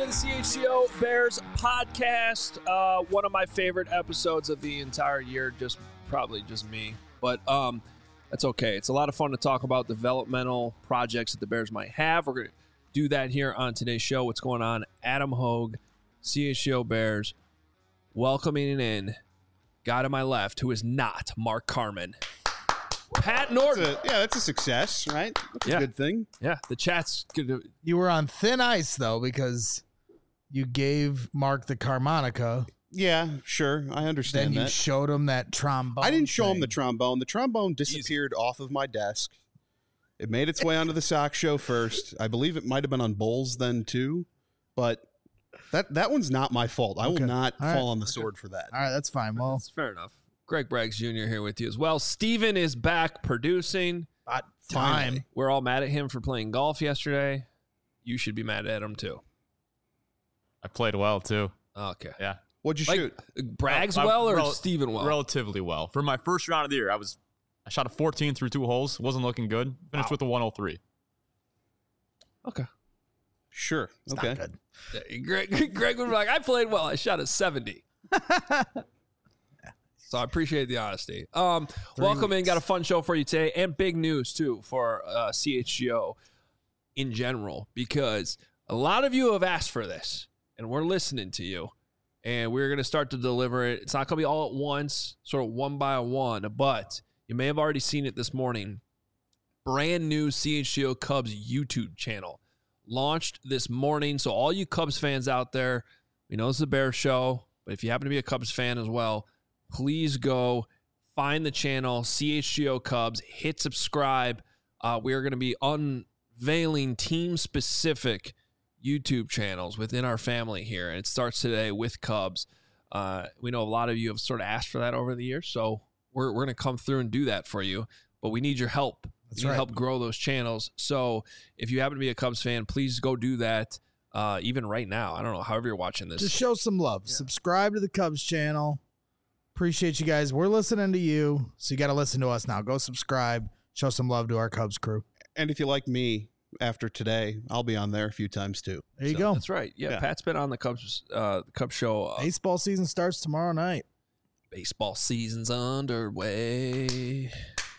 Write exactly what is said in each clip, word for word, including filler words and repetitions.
the C H C O Bears podcast. Uh, one of my favorite episodes of the entire year, just probably just me. But um, that's okay. It's a lot of fun to talk about developmental projects that the Bears might have. We're going to do that here on today's show. What's going on? Adam Hogue, C H C O Bears, welcoming in, guy to my left, who is not Mark Carman. Pat Norton. That's a, yeah, that's a success, right? That's yeah. a good thing. Yeah, the chat's good. You were on thin ice, though, because you gave Mark the harmonica. Yeah, sure. I understand then that. Then you showed him that trombone. I didn't show thing. him the trombone. The trombone disappeared Easy. off of my desk. It made its way onto the sock show first. I believe it might have been on bowls then, too. But that that one's not my fault. I okay. will not All fall right. on the sword for that. All right, that's fine. Well, that's fair enough. Greg Braggs Junior here with you as well. Steven is back producing. About time. We're all mad at him for playing golf yesterday. You should be mad at him, too. I played well, too. Okay. Yeah. What'd you like, shoot? Braggs I, I, well or rel- Steven well? Relatively well. For my first round of the year, I was I shot a fourteen through two holes. Wasn't looking good. Finished wow. with a one oh three. Okay. Sure. It's okay. Not good. Yeah, Greg, Greg would be like, I played well. I shot a seventy. So I appreciate the honesty. Um, welcome weeks. in. Got a fun show for you today, and big news too for uh, C H G O in general, because a lot of you have asked for this, and we're listening to you, and we're going to start to deliver it. It's not going to be all at once, sort of one by one, but you may have already seen it this morning. Brand new C H G O Cubs YouTube channel launched this morning. So all you Cubs fans out there, we know this is a Bears show, but if you happen to be a Cubs fan as well, please go find the channel, C H G O Cubs, hit subscribe. Uh, we are going to be unveiling team-specific YouTube channels within our family here, and it starts today with Cubs. Uh, we know a lot of you have sort of asked for that over the years, so we're, we're going to come through and do that for you, but we need your help. That's we need right. help grow those channels. So if you happen to be a Cubs fan, please go do that uh, even right now. I don't know, however you're watching this. Just show some love. Yeah. Subscribe to the Cubs channel. Appreciate you guys. We're listening to you, so you got to listen to us now. Go subscribe. Show some love to our Cubs crew. And if you like me after today, I'll be on there a few times too. There you so, go. That's right. Yeah, yeah, Pat's been on the Cubs uh, the Cubs show. Uh, Baseball season starts tomorrow night. Baseball season's underway.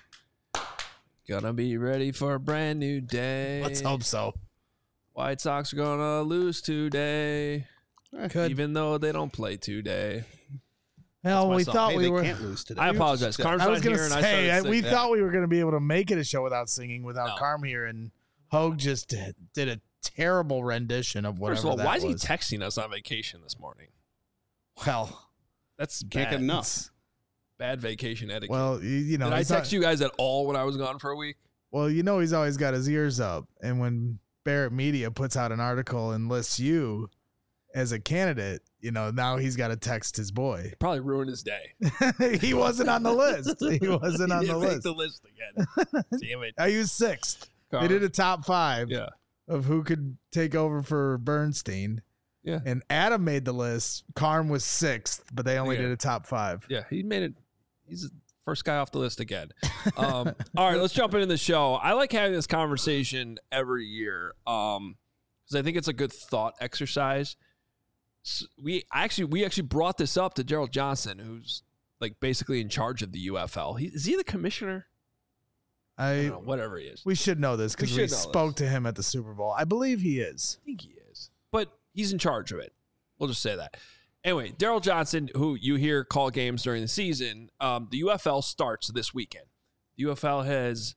Gonna be ready for a brand new day. Let's hope so. White Sox are gonna lose today, Could. even though they don't play today. Well, we song. thought hey, we they were. Can't lose today. I apologize. Carm's I was not going here, to and say I I, started we singing. thought we were going to be able to make it a show without singing, without No. Carm here, and Hogue just did, did a terrible rendition of whatever. First of all, that why is he was. texting us on vacation this morning? Well, That's Can't bad. get enough. Bad vacation etiquette. well, you, you know, Did I he's text not- you guys at all when I was gone for a week? Well, you know, he's always got his ears up, and when Barrett Media puts out an article and lists you as a candidate, you know, now he's got to text his boy. Probably ruined his day. He wasn't on the list. He wasn't on He the didn't make list. the list again. Damn it. I used sixth. Carm. They did a top five Yeah. of who could take over for Bernstein. Yeah. And Adam made the list. Carm was sixth, but they only Yeah. did a top five. Yeah, he made it. He's the first guy off the list again. Um, all right, let's jump into the show. I like having this conversation every year um, because I think it's a good thought exercise. So we actually we actually brought this up to Gerald Johnson, who's like basically in charge of the U F L. He, is he the commissioner? I I don't know, whatever he is. we should know this because We we, should know spoke this. to him at the Super Bowl. I believe he is. I think he is, but he's in charge of it. We'll just say that. Anyway, Daryl Johnson, who you hear call games during the season, um, the U F L starts this weekend. The U F L has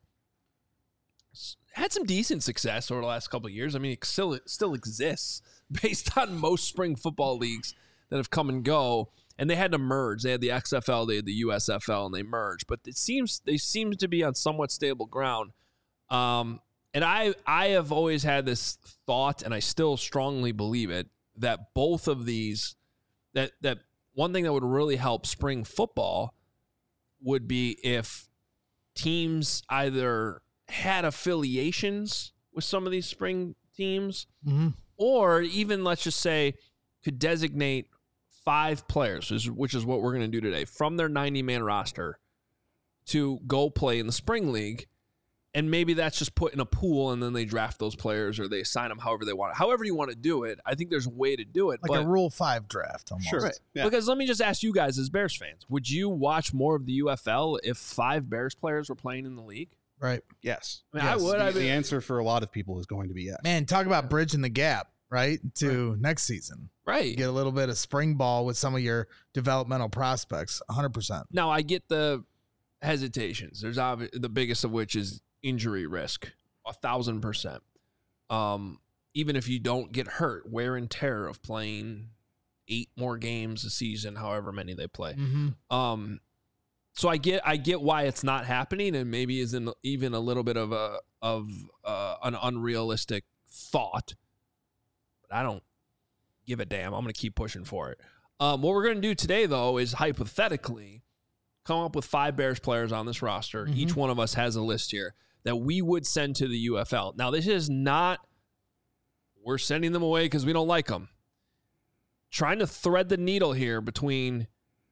had some decent success over the last couple of years. I mean, it still, it still exists based on most spring football leagues that have come and go. And they had to merge. They had the X F L, they had the U S F L, and they merged. But it seems they seem to be on somewhat stable ground. Um, and I I have always had this thought, and I still strongly believe it, that both of these, that that one thing that would really help spring football would be if teams either had affiliations with some of these spring teams, Mm-hmm. or even, let's just say, could designate five players, which is- which is what we're going to do today, from their ninety-man roster to go play in the spring league. and maybe that's just put in a pool and then they draft those players or they assign them however they want. However you want to do it, I think there's a way to do it. Like but, a Rule five draft almost. Sure. Right. Yeah. Because let me just ask you guys as Bears fans, would you watch more of the U F L if five Bears players were playing in the league? Right. Yes. I mean, Yes. I would. The, I mean, the answer for a lot of people is going to be yes. Man, talk about bridging the gap, right? To right. next season. right. Get a little bit of spring ball with some of your developmental prospects. one hundred percent. Now, I get the hesitations. There's obvi- the biggest of which is injury risk, a thousand percent. Um, even if you don't get hurt, wear and tear of playing eight more games a season, however many they play. Mm-hmm. Um, so I get I get why it's not happening, and maybe is in even a little bit of a of uh, an unrealistic thought. But I don't give a damn. I'm going to keep pushing for it. Um, what we're going to do today, though, is hypothetically come up with five Bears players on this roster. Mm-hmm. Each one of us has a list here that we would send to the U F L. Now, this is not we're sending them away because we don't like them. Trying to thread the needle here between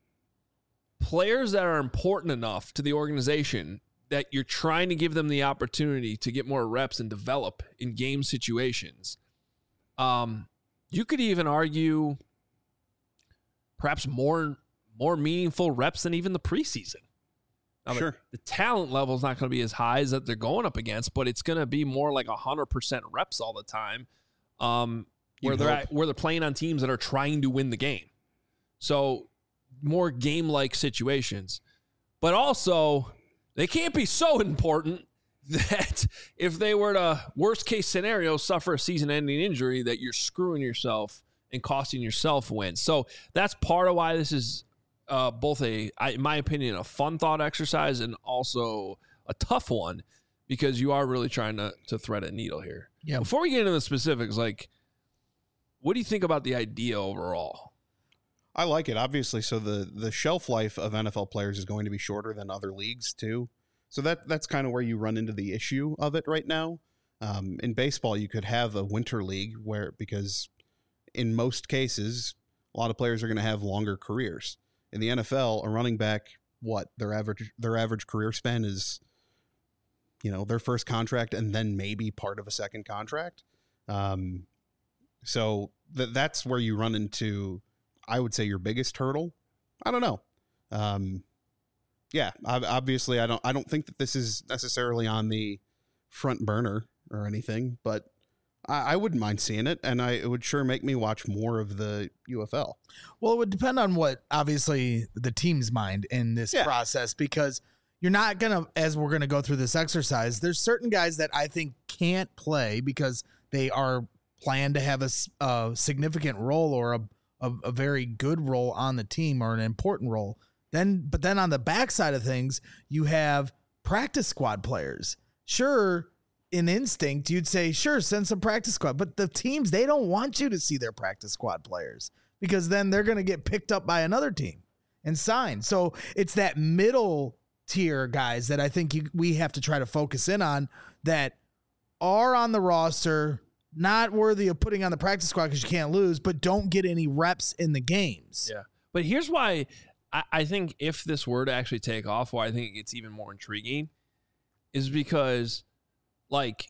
players that are important enough to the organization that you're trying to give them the opportunity to get more reps and develop in game situations. Um, you could even argue perhaps more more meaningful reps than even the preseason. Now, Sure. The, the talent level is not going to be as high as that they're going up against, but it's going to be more like one hundred percent reps all the time. Um, where You'd they're hope. at, where they're playing on teams that are trying to win the game. So more game-like situations. But also, they can't be so important that if they were to, worst-case scenario, suffer a season-ending injury, that you're screwing yourself and costing yourself wins. So that's part of why this is uh, both a, I, in my opinion, a fun thought exercise and also a tough one because you are really trying to, to thread a needle here. Yeah. Before we get into the specifics, like, what do you think about the idea overall? I like it, obviously. So the the shelf life of N F L players is going to be shorter than other leagues too. So that that's kind of where you run into the issue of it right now. Um, in baseball, you could have a winter league where, because in most cases, a lot of players are going to have longer careers. In the N F L, a running back, what their average their average career span is, you know, their first contract and then maybe part of a second contract. Um, So th- that's where you run into, I would say, your biggest hurdle. I don't know. Um, yeah, ob- obviously, I don't. I don't think that this is necessarily on the front burner or anything, but I, I wouldn't mind seeing it, and I it would sure make me watch more of the U F L. Well, it would depend on what, obviously, the team's mind in this Yeah. process, because you're not going to, as we're going to go through this exercise, there's certain guys that I think can't play because they are planned to have a, s- a significant role or a, a, a very good role on the team or an important role. Then, but then on the backside of things, you have practice squad players. Sure, in instinct, you'd say, sure, send some practice squad. But the teams, they don't want you to see their practice squad players because then they're going to get picked up by another team and signed. So it's that middle tier guys that I think you, we have to try to focus in on that are on the roster, not worthy of putting on the practice squad because you can't lose, but don't get any reps in the games. Yeah. But here's why I, I think if this were to actually take off, why I think it gets even more intriguing is because, like,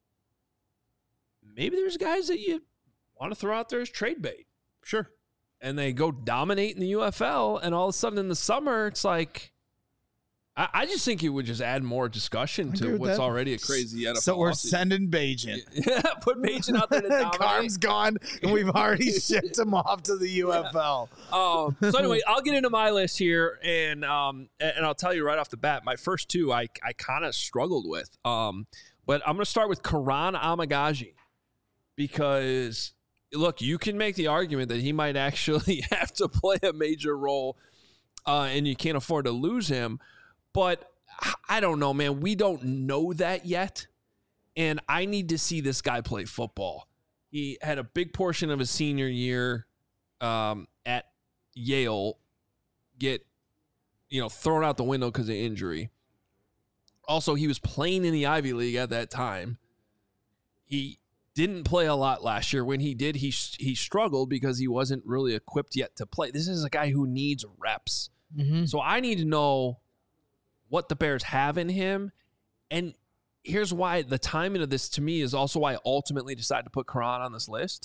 maybe there's guys that you want to throw out there as trade bait. Sure. And they go dominate in the U F L, and all of a sudden in the summer, it's like, I, I just think it would just add more discussion I agree to with what's that. already a crazy N F L. So we're offseason. sending Bajan. Yeah, put Bajan out there to dominate. Carm's gone, and we've already shipped him off to the U F L. Um, so anyway, I'll get into my list here, and um, and I'll tell you right off the bat, my first two I I kind of struggled with. Um, but I'm going to start with Karan Amagaji because look, you can make the argument that he might actually have to play a major role, uh, and you can't afford to lose him. But I don't know, man. We don't know that yet, and I need to see this guy play football. He had a big portion of his senior year um, at Yale get, you know, thrown out the window because of injury. Also, he was playing in the Ivy League at that time. He didn't play a lot last year. When he did, he he struggled because he wasn't really equipped yet to play. This is a guy who needs reps. Mm-hmm. So I need to know what the Bears have in him. And here's why the timing of this to me is also why I ultimately decided to put Karan on this list.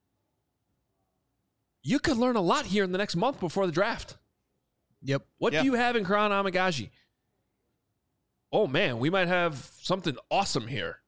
You could learn a lot here in the next month before the draft. Yep. What yeah. do you have in Karan Amagaji? Oh, man, we might have something awesome here.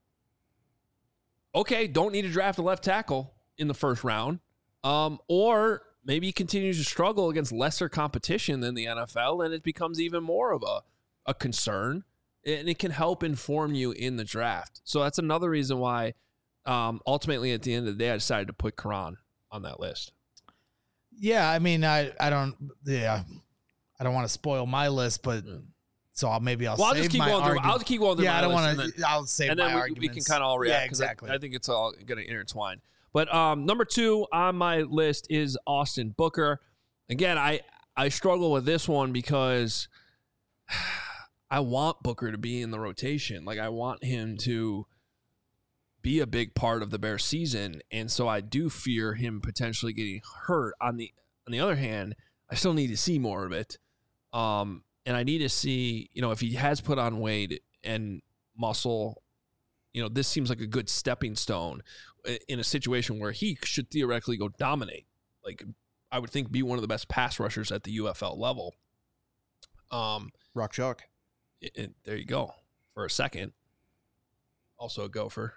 Okay, don't need to draft a left tackle in the first round. Um, or maybe he continues to struggle against lesser competition than the N F L, and it becomes even more of a, a concern, and it can help inform you in the draft. So that's another reason why, um, ultimately, at the end of the day, I decided to put Karan on that list. Yeah, I mean, I, I don't, yeah, I don't want to spoil my list, but so I'll maybe I'll. Well, I'll save just keep my going through. argument. I'll just keep going through. Yeah, my I don't want to. I'll save and my then we, arguments. we can kind of all react Yeah, because exactly. I, I think it's all going to intertwine. But um, number two on my list is Austin Booker. Again, I I struggle with this one because I want Booker to be in the rotation. Like I want him to be a big part of the Bears season, and so I do fear him potentially getting hurt. On the on the other hand, I still need to see more of it. Um, and I need to see, you know, if he has put on weight and muscle, you know, this seems like a good stepping stone in a situation where he should theoretically go dominate. Like, I would think be one of the best pass rushers at the U F L level. Um, Rock chalk. it, it, there you go. For a second. Also a gopher.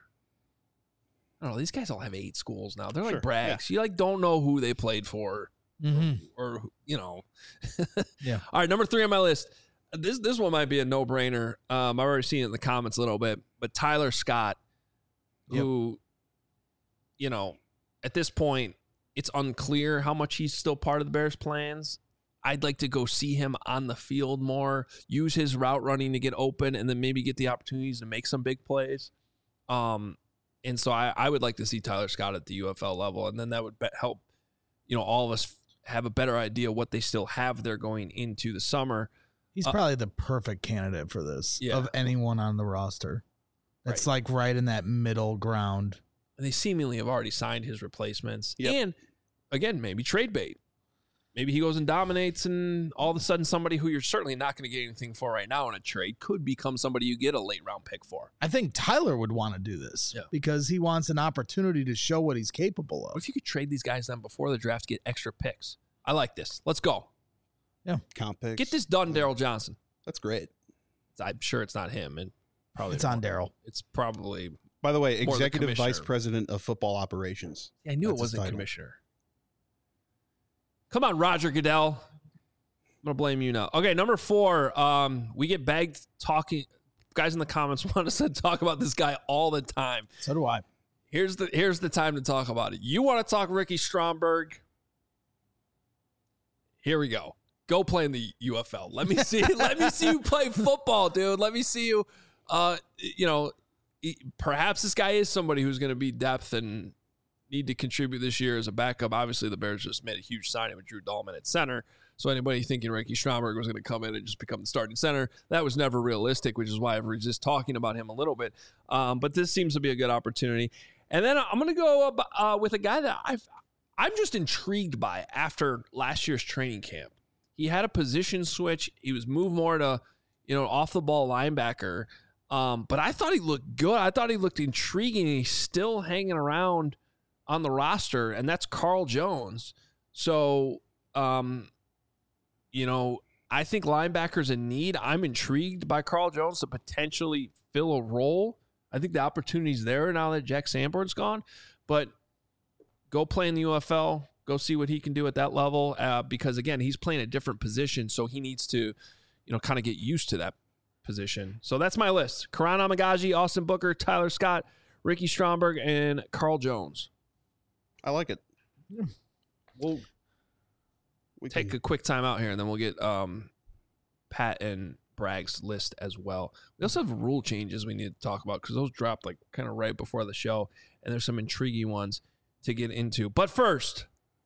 I don't know. These guys all have eight schools now. They're like Sure, brags. You like don't know who they played for. Mm-hmm. Or, or you know. Yeah. All right, number three on my list. This this one might be a no-brainer. Um, I've already seen it in the comments a little bit, but Tyler Scott, who, yep. you know, at this point, it's unclear how much he's still part of the Bears' plans. I'd like to go see him on the field more, use his route running to get open, and then maybe get the opportunities to make some big plays. Um, and so I, I would like to see Tyler Scott at the U F L level, and then that would be- help, you know, all of us have a better idea what they still have there going into the summer. He's Uh, probably the perfect candidate for this Yeah. of anyone on the roster. It's Right. like right in that middle ground. And they seemingly have already signed his replacements. Yep. And again, maybe trade bait. Maybe he goes and dominates, and all of a sudden somebody who you're certainly not going to get anything for right now in a trade could become somebody you get a late round pick for. I think Tyler would want to do this Yeah. because he wants an opportunity to show what he's capable What of. if you could trade these guys then before the draft, get extra picks? I like this. Let's go. Comp picks. Get this done, Daryl Johnson. That's great. I'm sure it's not him, and probably It's on Daryl. It's probably. By the way, More the executive vice commissioner. president of football operations. I knew That's it his wasn't title. commissioner. Come on, Roger Goodell. I'm gonna blame you now. Okay, number four. Um, we get bagged talking. Guys in the comments want us to talk about this guy all the time. So do I. Here's the here's the time to talk about it. You want to talk Ricky Stromberg? Here we go. Go play in the U F L. Let me see. let me see you play football, dude. Let me see you. Uh, you know, perhaps this guy is somebody who's going to be depth and need to contribute this year as a backup. Obviously, the Bears just made a huge signing with Drew Dahlman at center. So anybody thinking Ricky Stromberg was going to come in and just become the starting center, that was never realistic, which is why I resist talking about him a little bit. Um, but this seems to be a good opportunity. And then I'm going to go up, uh, with a guy that I've, I'm just intrigued by after last year's training camp. He had a position switch. He was moved more to, you know, off the ball linebacker. Um, but I thought he looked good. I thought he looked intriguing. He's still hanging around on the roster, and that's Carl Jones. So, um, you know, I think linebacker's in need. I'm intrigued by Carl Jones to potentially fill a role. I think the opportunity's there now that Jack Sanborn's gone. But go play in the U F L. Go see what he can do at that level, uh, because, again, he's playing a different position, so he needs to, you know, kind of get used to that position. So that's my list. Karan Amagaji, Austin Booker, Tyler Scott, Ricky Stromberg, and Carl Jones. I like it. Yeah. We'll We take can, a quick time out here, and then we'll get um, Pat and Bragg's list as well. We also have rule changes we need to talk about because those dropped like kind of right before the show, and there's some intriguing ones to get into. But first,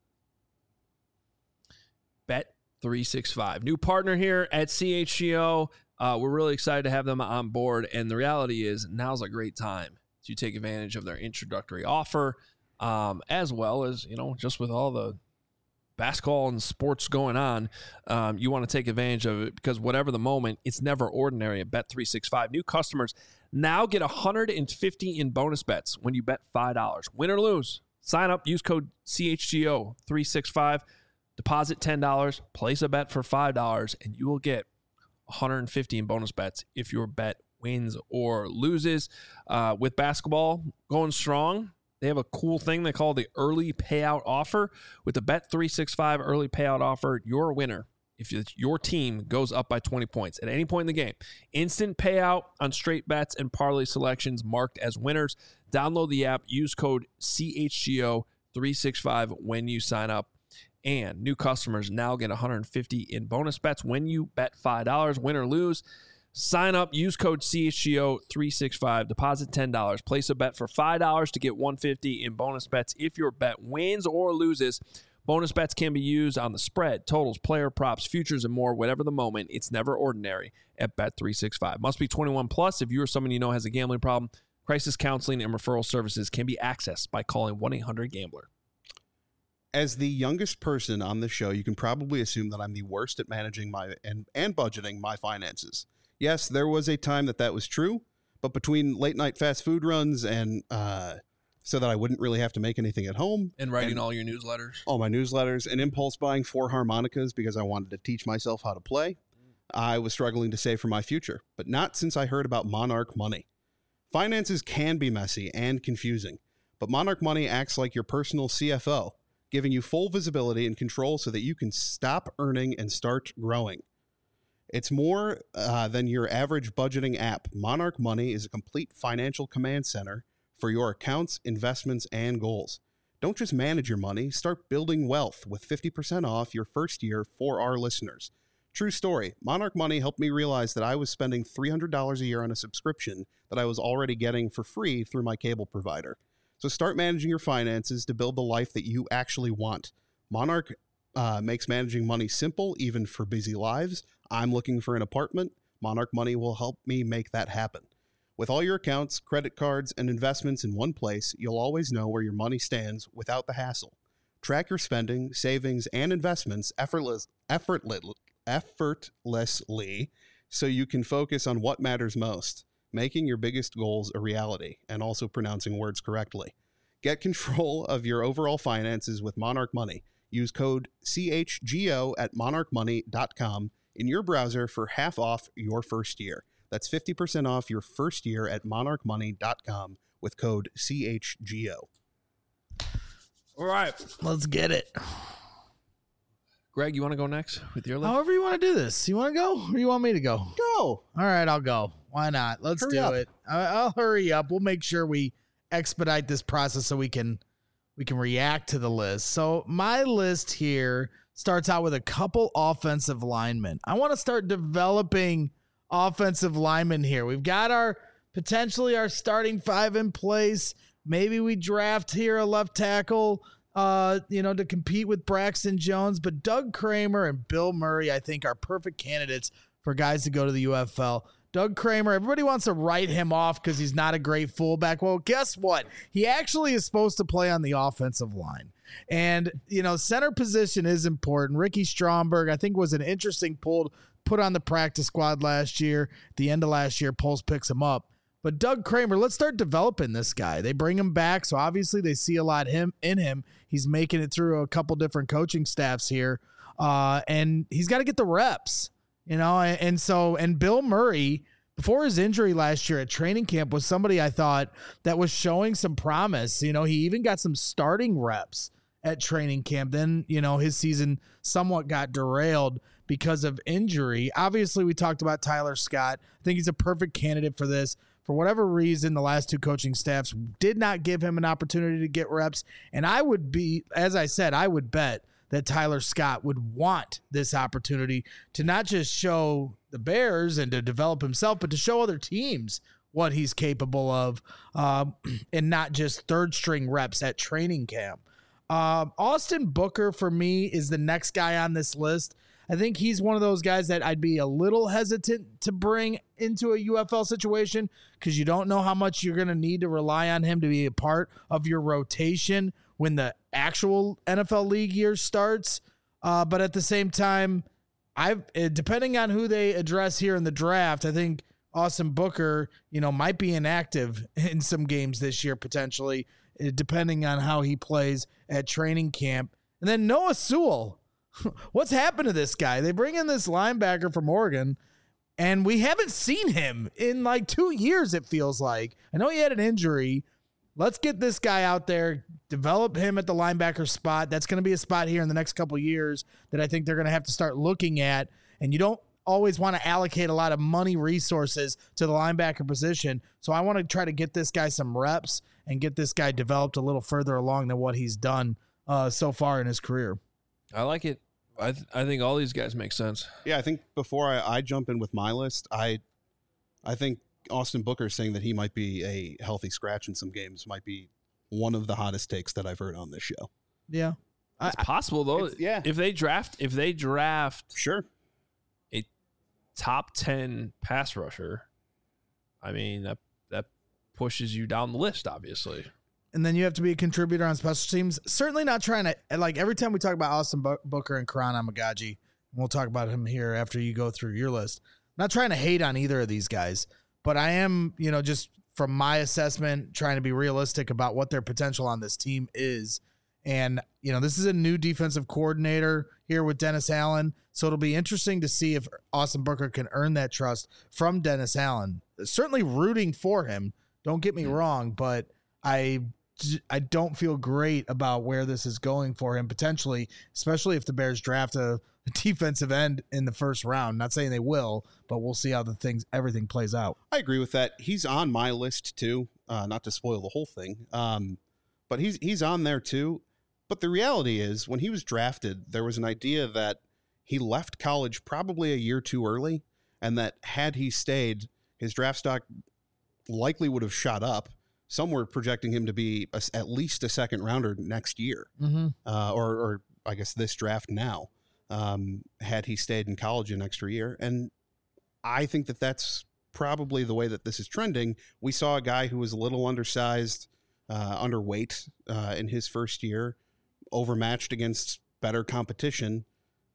Bet three sixty-five, new partner here at C H G O. Uh, we're really excited to have them on board, and the reality is now's a great time to take advantage of their introductory offer, um, as well as, you know, just with all the basketball and sports going on, um, you want to take advantage of it because whatever the moment, it's never ordinary at Bet three sixty-five. New customers now get one hundred fifty in bonus bets when you bet five dollars. Win or lose, sign up, use code C H G O three sixty-five, deposit ten dollars, place a bet for five dollars, and you will get one hundred fifty in bonus bets if your bet wins or loses. Uh, with basketball going strong, they have a cool thing they call the early payout offer. With the Bet three sixty-five early payout offer, you're a winner if your team goes up by twenty points at any point in the game. Instant payout on straight bets and parlay selections marked as winners. Download the app. Use code C H G O three sixty-five when you sign up. And new customers now get one hundred fifty in bonus bets when you bet five dollars. Win or lose, sign up, use code C H G O three sixty-five, deposit ten dollars, place a bet for five dollars to get one hundred fifty in bonus bets if your bet wins or loses. Bonus bets can be used on the spread, totals, player props, futures, and more. Whatever the moment, it's never ordinary at Bet three sixty-five. Must be twenty-one plus. If you or someone you know has a gambling problem, crisis counseling and referral services can be accessed by calling one eight hundred gambler. As the youngest person on the show, you can probably assume that I'm the worst at managing my and, and budgeting my finances. Yes, there was a time that that was true, but between late night fast food runs and uh, so that I wouldn't really have to make anything at home. And writing and all your newsletters. All my newsletters and impulse buying four harmonicas because I wanted to teach myself how to play. I was struggling to save for my future, but not since I heard about Monarch Money. Finances can be messy and confusing, but Monarch Money acts like your personal C F O, giving you full visibility and control so that you can stop earning and start growing. It's more uh, than your average budgeting app. Monarch Money is a complete financial command center for your accounts, investments, and goals. Don't just manage your money, start building wealth with fifty percent off your first year for our listeners. True story, Monarch Money helped me realize that I was spending three hundred dollars a year on a subscription that I was already getting for free through my cable provider. So start managing your finances to build the life that you actually want. Monarch uh, makes managing money simple, even for busy lives. I'm looking for an apartment. Monarch Money will help me make that happen. With all your accounts, credit cards, and investments in one place, you'll always know where your money stands without the hassle. Track your spending, savings, and investments effortless, effortless, effortlessly so you can focus on what matters most, making your biggest goals a reality, and also pronouncing words correctly. Get control of your overall finances with Monarch Money. Use code C H G O at monarch money dot com in your browser for half off your first year. That's fifty percent off your first year at monarch money dot com with code C H G O. All right. Let's get it. Greg, you want to go next with your list? However you want to do this. You want to go or you want me to go? Go. All right, I'll go. Why not? Let's Hurry do up. it. I- I'll hurry up. We'll make sure we expedite this process so we can we can react to the list. So my list here starts out with a couple offensive linemen. I want to start developing offensive linemen here. We've got our potentially our starting five in place. Maybe we draft here a left tackle, uh, you know, to compete with Braxton Jones. But Doug Kramer and Bill Murray, I think, are perfect candidates for guys to go to the U F L. Doug Kramer, everybody wants to write him off because he's not a great fullback. Well, guess what? He actually is supposed to play on the offensive line. And, you know, center position is important. Ricky Stromberg, I think, was an interesting pull put on the practice squad last year. At the end of last year, Pulse picks him up. But Doug Kramer, let's start developing this guy. They bring him back, so obviously they see a lot him in him. He's making it through a couple different coaching staffs here, uh, and he's got to get the reps, you know. And, and so, and Bill Murray, before his injury last year at training camp, was somebody I thought that was showing some promise. You know, he even got some starting reps at training camp. Then, you know, his season somewhat got derailed because of injury. Obviously, we talked about Tyler Scott. I think he's a perfect candidate for this. For whatever reason, the last two coaching staffs did not give him an opportunity to get reps. And I would be, as I said, I would bet that Tyler Scott would want this opportunity to not just show the Bears and to develop himself, but to show other teams what he's capable of, um, and not just third string reps at training camp. Um, Austin Booker, for me, is the next guy on this list. I think he's one of those guys that I'd be a little hesitant to bring into a U F L situation because you don't know how much you're going to need to rely on him to be a part of your rotation when the actual N F L league year starts. Uh, but at the same time, I've depending on who they address here in the draft, I think Austin Booker, you know, might be inactive in some games this year potentially, depending on how he plays at training camp. And then Noah Sewell, what's happened to this guy? They bring in this linebacker from Oregon, and we haven't seen him in like two years, it feels like. I know he had an injury. Let's get this guy out there, develop him at the linebacker spot. That's going to be a spot here in the next couple of years that I think they're going to have to start looking at. And you don't always want to allocate a lot of money resources to the linebacker position. So I want to try to get this guy some reps and get this guy developed a little further along than what he's done uh, so far in his career. I like it. I th- I think all these guys make sense. Yeah, I think before I, I jump in with my list, I I think Austin Booker saying that he might be a healthy scratch in some games might be one of the hottest takes that I've heard on this show. Yeah. It's I, possible, though. Yeah. If they draft, if they draft sure a top ten pass rusher, I mean, that, that pushes you down the list, obviously. And then you have to be a contributor on special teams. Certainly not trying to, like, every time we talk about Austin Booker and Karan Amagaji, and we'll talk about him here after you go through your list. I'm not trying to hate on either of these guys, but I am, you know, just from my assessment, trying to be realistic about what their potential on this team is. And, you know, this is a new defensive coordinator here with Dennis Allen. So it'll be interesting to see if Austin Booker can earn that trust from Dennis Allen. Certainly rooting for him. Don't get me wrong, but I I don't feel great about where this is going for him potentially, especially if the Bears draft a, a defensive end in the first round. Not saying they will, but we'll see how the things everything plays out. I agree with that. He's on my list too. Uh, not to spoil the whole thing, um, but he's he's on there too. But the reality is, when he was drafted, there was an idea that he left college probably a year too early, and that had he stayed, his draft stock likely would have shot up. Some were projecting him to be a, at least a second rounder next year, mm-hmm. uh, or, or I guess this draft now, um, had he stayed in college an extra year. And I think that that's probably the way that this is trending. We saw a guy who was a little undersized, uh, underweight uh, in his first year, overmatched against better competition.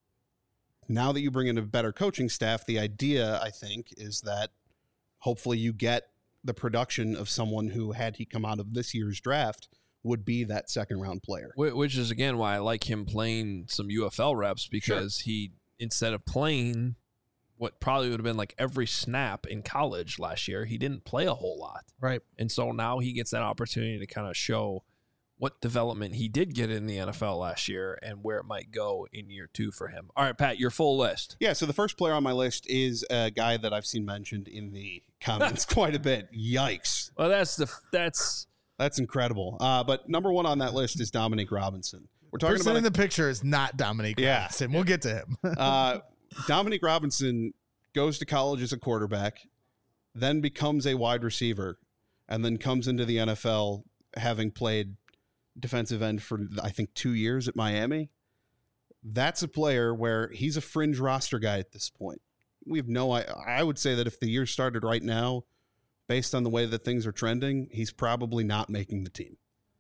Now that you bring in a better coaching staff, the idea, I think, is that hopefully you get the production of someone who, had he come out of this year's draft, would be that second round player. Which is, again, why I like him playing some U F L reps, because sure. he, instead of playing what probably would have been like every snap in college last year, he didn't play a whole lot. Right. And so now he gets that opportunity to kind of show what development he did get in the N F L last year and where it might go in year two for him. All right, Pat, your full list. Yeah, so the first player on my list is a guy that I've seen mentioned in the comments quite a bit. Yikes. Well, that's the that's that's incredible. Uh, but number one on that list is Dominique Robinson. We're talking Person about in a, the picture is not Dominique yeah. Robinson. We'll get to him. uh, Dominique Robinson goes to college as a quarterback, then becomes a wide receiver, and then comes into the N F L having played defensive end for, I think, two years at Miami. That's a player where he's a fringe roster guy at this point. We have no, I, I would say that if the year started right now, based on the way that things are trending, he's probably not making the team.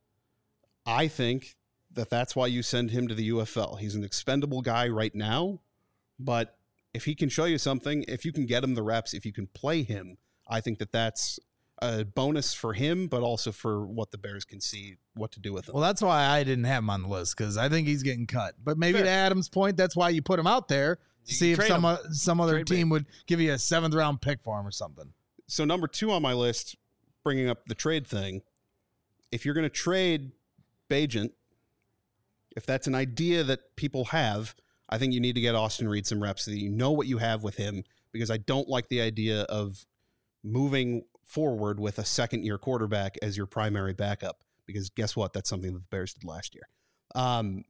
I think that that's why you send him to the U F L. He's an expendable guy right now, but if he can show you something, if you can get him the reps, if you can play him, I think that that's a bonus for him, but also for what the Bears can see what to do with him. Well, that's why I didn't have him on the list, because I think he's getting cut. But maybe Fair. to Adam's point, that's why you put him out there to see if some, uh, some other Trade team bait. would give you a seventh round pick for him or something. So number two on my list, bringing up the trade thing, if you're going to trade Bagent, if that's an idea that people have, I think you need to get Austin Reed some reps so that you know what you have with him, because I don't like the idea of moving forward with a second-year quarterback as your primary backup, because guess what? That's something that the Bears did last year. Um,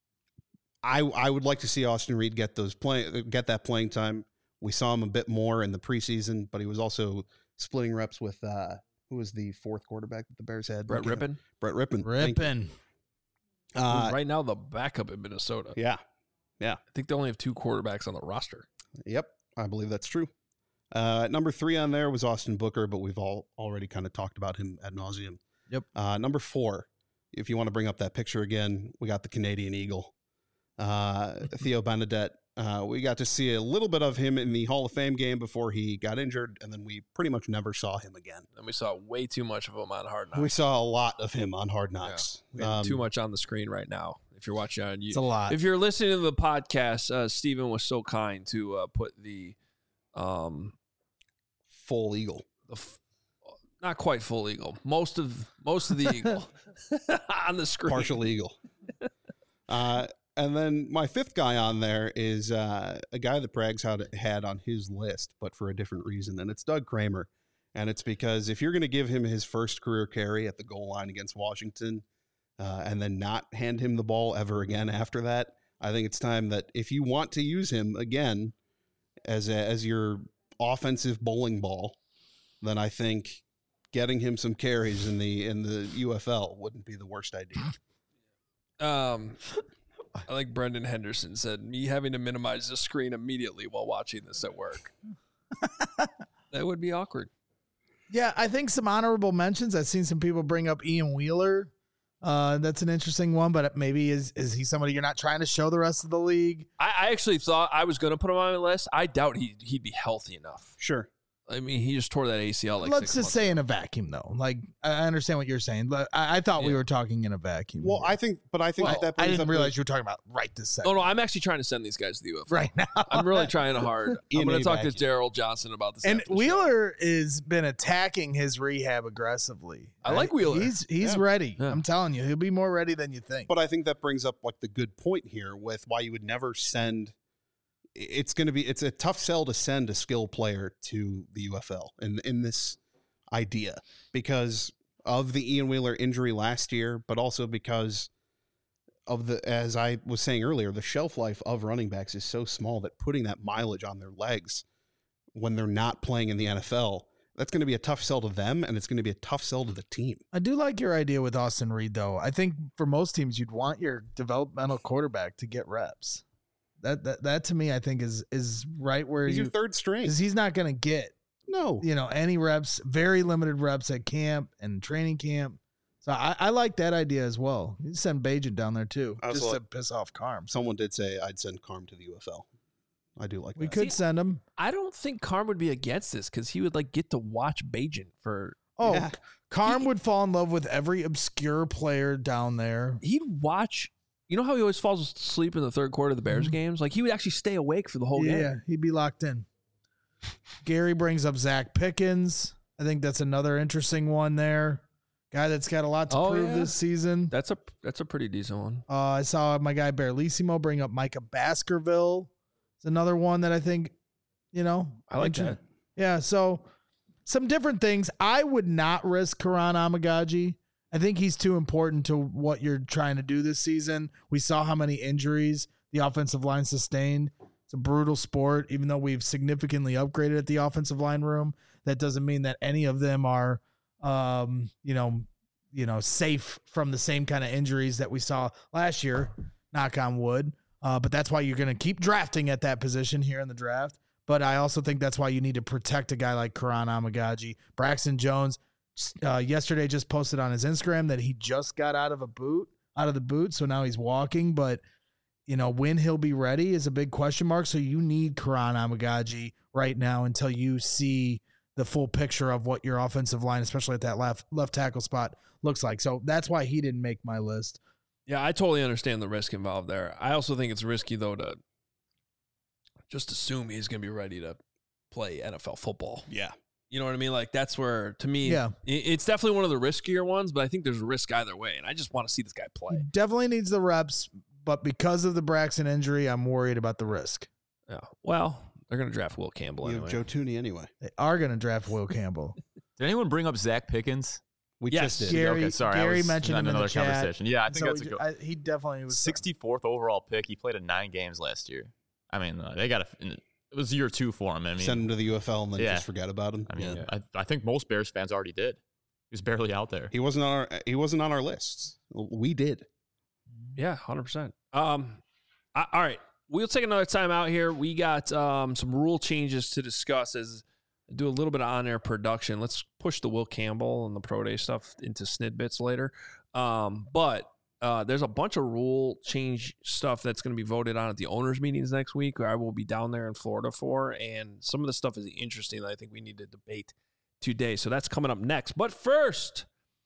I I would like to see Austin Reed get those play get that playing time. We saw him a bit more in the preseason, but he was also splitting reps with uh, who was the fourth quarterback that the Bears had? Brett Rippon. Brett Rippon. Rippon. Uh, right now the backup in Minnesota. yeah. Yeah. I think they only have two quarterbacks on the roster. Yep. I believe that's true. Uh, number three on there was Austin Booker, but we've all already kind of talked about him ad nauseum. Yep. Uh, number four, if you want to bring up that picture again, we got the Canadian Eagle, uh, Theo Benedette. Uh, we got to see a little bit of him in the Hall of Fame game before he got injured, and then we pretty much never saw him again. And we saw way too much of him on Hard Knocks. We saw a lot of him on Hard Knocks. Yeah. We have Um, too much on the screen right now. If you're watching on YouTube, It's a lot. If you're listening to the podcast, uh, Steven was so kind to uh, put the, um, full eagle. the f- not quite full eagle, most of most of the eagle on the screen. Partial eagle. Uh, and then my fifth guy on there is uh, a guy that Braggs had, had on his list, but for a different reason, and it's Doug Kramer. And it's because if you're going to give him his first career carry at the goal line against Washington uh, and then not hand him the ball ever again after that, I think it's time that if you want to use him again as a, as your offensive bowling ball, then I think getting him some carries in the in the U F L wouldn't be the worst idea. Um, I like Brendan Henderson said, me having to minimize the screen immediately while watching this at work. That would be awkward. Yeah, I think some honorable mentions. I've seen some people bring up Ian Wheeler. Uh, that's an interesting one, but maybe is is he somebody you're not trying to show the rest of the league? I, I actually thought I was going to put him on my list. I doubt he, he'd be healthy enough. Sure. I mean, he just tore that A C L like Let's six just months say ago. in a vacuum, though. Like, I understand what you're saying, but I, I thought we Yeah. were talking in a vacuum. Well, I think, but I think Well, that I brings didn't up realize you were talking about right this second. Oh, no, I'm actually trying to send these guys to the U F L. right now. I'm really trying hard. Ian I'm going A. to talk to vacuum. Daryl Johnson about this. And after the show. Wheeler has been attacking his rehab aggressively. I like Wheeler. He's he's Yeah. ready. Yeah. I'm telling you, he'll be more ready than you think. But I think that brings up like the good point here with why you would never send. It's going to be it's a tough sell to send a skill player to the U F L in in this idea because of the Ian Wheeler injury last year, but also because of the, as I was saying earlier, the shelf life of running backs is so small that putting that mileage on their legs when they're not playing in the N F L, that's going to be a tough sell to them, and it's going to be a tough sell to the team. I do like your idea with Austin Reed, though. I think for most teams, you'd want your developmental quarterback to get reps. That that that to me, I think is is right where He's you your third string. because he's not going to get No, you know any reps, very limited reps at camp and training camp. So I, I like that idea as well. You send Bajan down there too, I was just to like- piss off Carm. someone did say I'd send Carm to the U F L. I do like We that. could See, send him. I don't think Carm would be against this because he would like get to watch Bajan for. Oh, Yeah. Carm He- would fall in love with every obscure player down there. He'd watch. You know how he always falls asleep in the third quarter of the Bears Mhm. games? Like he would actually stay awake for the whole Yeah, game. he'd be locked in. Gary brings up Zach Pickens. I think that's another interesting one there. Guy that's got a lot to Oh, prove yeah. this season. That's a that's a pretty decent one. Uh, I saw my guy Berlissimo bring up Micah Baskerville. It's another one that I think, you know, I like inter- that. Yeah, so some different things. I would not risk Karan Amagaji. I think he's too important to what you're trying to do this season. We saw how many injuries the offensive line sustained. It's a brutal sport, even though we've significantly upgraded at the offensive line room. That doesn't mean that any of them are, um, you know, you know, safe from the same kind of injuries that we saw last year. Knock on wood. Uh, but that's why you're going to keep drafting at that position here in the draft. But I also think that's why you need to protect a guy like Karan Amagaji. Braxton Jones uh, yesterday just posted on his Instagram that he just got out of a boot, out of the boot. So now he's walking. But, you know, when he'll be ready is a big question mark. So you need Karan Amagaji right now until you see the full picture of what your offensive line, especially at that left left tackle spot, looks like. So that's why he didn't make my list. Yeah, I totally understand the risk involved there. I also think it's risky though to just assume he's going to be ready to play N F L football. Yeah. You know what I mean? Like that's where, to me, Yeah. i- it's definitely one of the riskier ones. But I think there's a risk either way, and I just want to see this guy He play. definitely needs the reps, but because of the Braxton injury, I'm worried about the risk. Yeah. Well, they're going to draft Will Campbell You anyway. have Joe Tooney anyway. They are going to draft Will Campbell. Did anyone bring up Zach Pickens? We Yes. just did. Gary, okay, sorry, I Gary was mentioned on him in another the chat. conversation. Yeah, I think So that's a he- good. I- he definitely was sixty-fourth overall pick. He played in nine games last year. I mean, uh, they got a. It was year two for him. I mean, Send him to the U F L and then Yeah. just forget about him. I mean, Yeah. I, I think most Bears fans already did. He was barely out there. He wasn't on our he wasn't on our lists. We did. Yeah, one hundred percent. Um, I, all right. We'll take another time out here. We got um, some rule changes to discuss as do a little bit of on-air production. Let's push the Will Campbell and the Pro Day stuff into snidbits later. Um, but uh, there's a bunch of rule change stuff that's going to be voted on at the owners' meetings next week, where I will be down there in Florida for. And some of the stuff is interesting that I think we need to debate today. So that's coming up next. But first,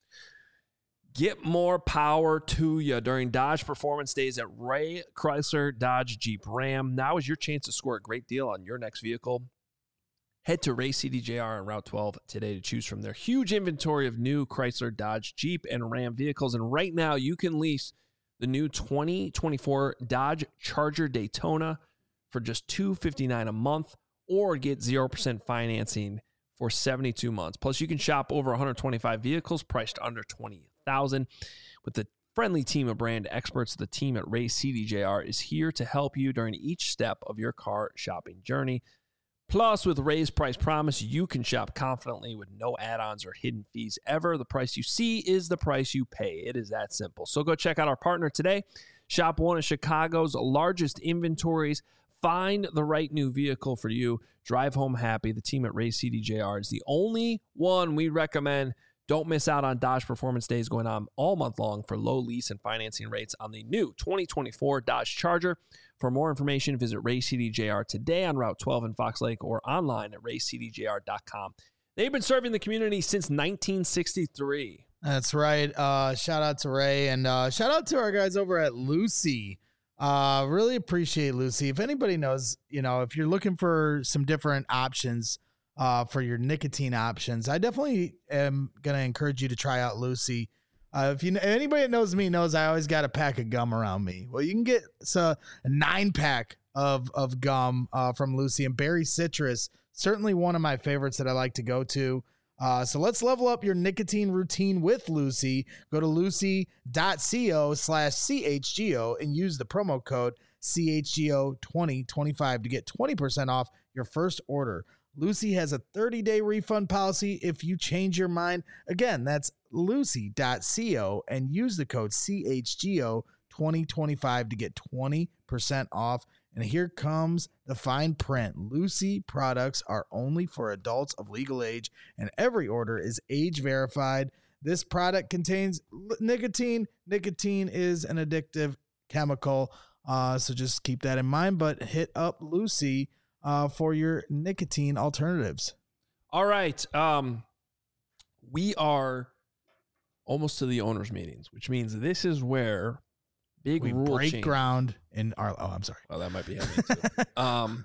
get more power to you during Dodge Performance Days at Ray Chrysler Dodge Jeep Ram. Now is your chance to score a great deal on your next vehicle. Head to Ray C D J R on Route twelve today to choose from their huge inventory of new Chrysler, Dodge, Jeep, and Ram vehicles. And right now, you can lease the new twenty twenty-four Dodge Charger Daytona for just two hundred fifty-nine dollars a month, or get zero percent financing for seventy-two months. Plus, you can shop over one hundred twenty-five vehicles priced under twenty thousand dollars. With the friendly team of brand experts, the team at Ray C D J R is here to help you during each step of your car shopping journey. Plus, with Ray's Price Promise, you can shop confidently with no add-ons or hidden fees ever. The price you see is the price you pay. It is that simple. So go check out our partner today. Shop one of Chicago's largest inventories. Find the right new vehicle for you. Drive home happy. The team at Ray C D J R is the only one we recommend. Don't miss out on Dodge Performance Days going on all month long for low lease and financing rates on the new twenty twenty-four Dodge Charger. For more information, visit Ray C D J R today on Route twelve in Fox Lake or online at ray c d j r dot com. They've been serving the community since nineteen sixty-three. That's right. Uh, shout out to Ray, and uh, shout out to our guys over at Lucy. Uh, really appreciate Lucy. If anybody knows, you know, if you're looking for some different options uh, for your nicotine options, I definitely am going to encourage you to try out Lucy. Uh, if you anybody that knows me knows I always got a pack of gum around me. Well, you can get so, a nine pack of of gum uh, from Lucy, and Berry Citrus, certainly one of my favorites that I like to go to. Uh, so let's level up your nicotine routine with Lucy. Go to lucy.co slash CHGO and use the promo code C H G O twenty twenty-five to get twenty percent off your first order. Lucy has a thirty-day refund policy if you change your mind. Again, that's lucy.co and use the code C H G O twenty twenty-five to get twenty percent off. And here comes the fine print. Lucy products are only for adults of legal age, and every order is age verified. This product contains nicotine. Nicotine is an addictive chemical, uh, so just keep that in mind. But hit up Lucy uh, for your nicotine alternatives. All right. Um, we are almost to the owners' meetings, which means this is where big we rule break change. ground in our. Oh, I'm sorry. Oh, that might be heavy too. um,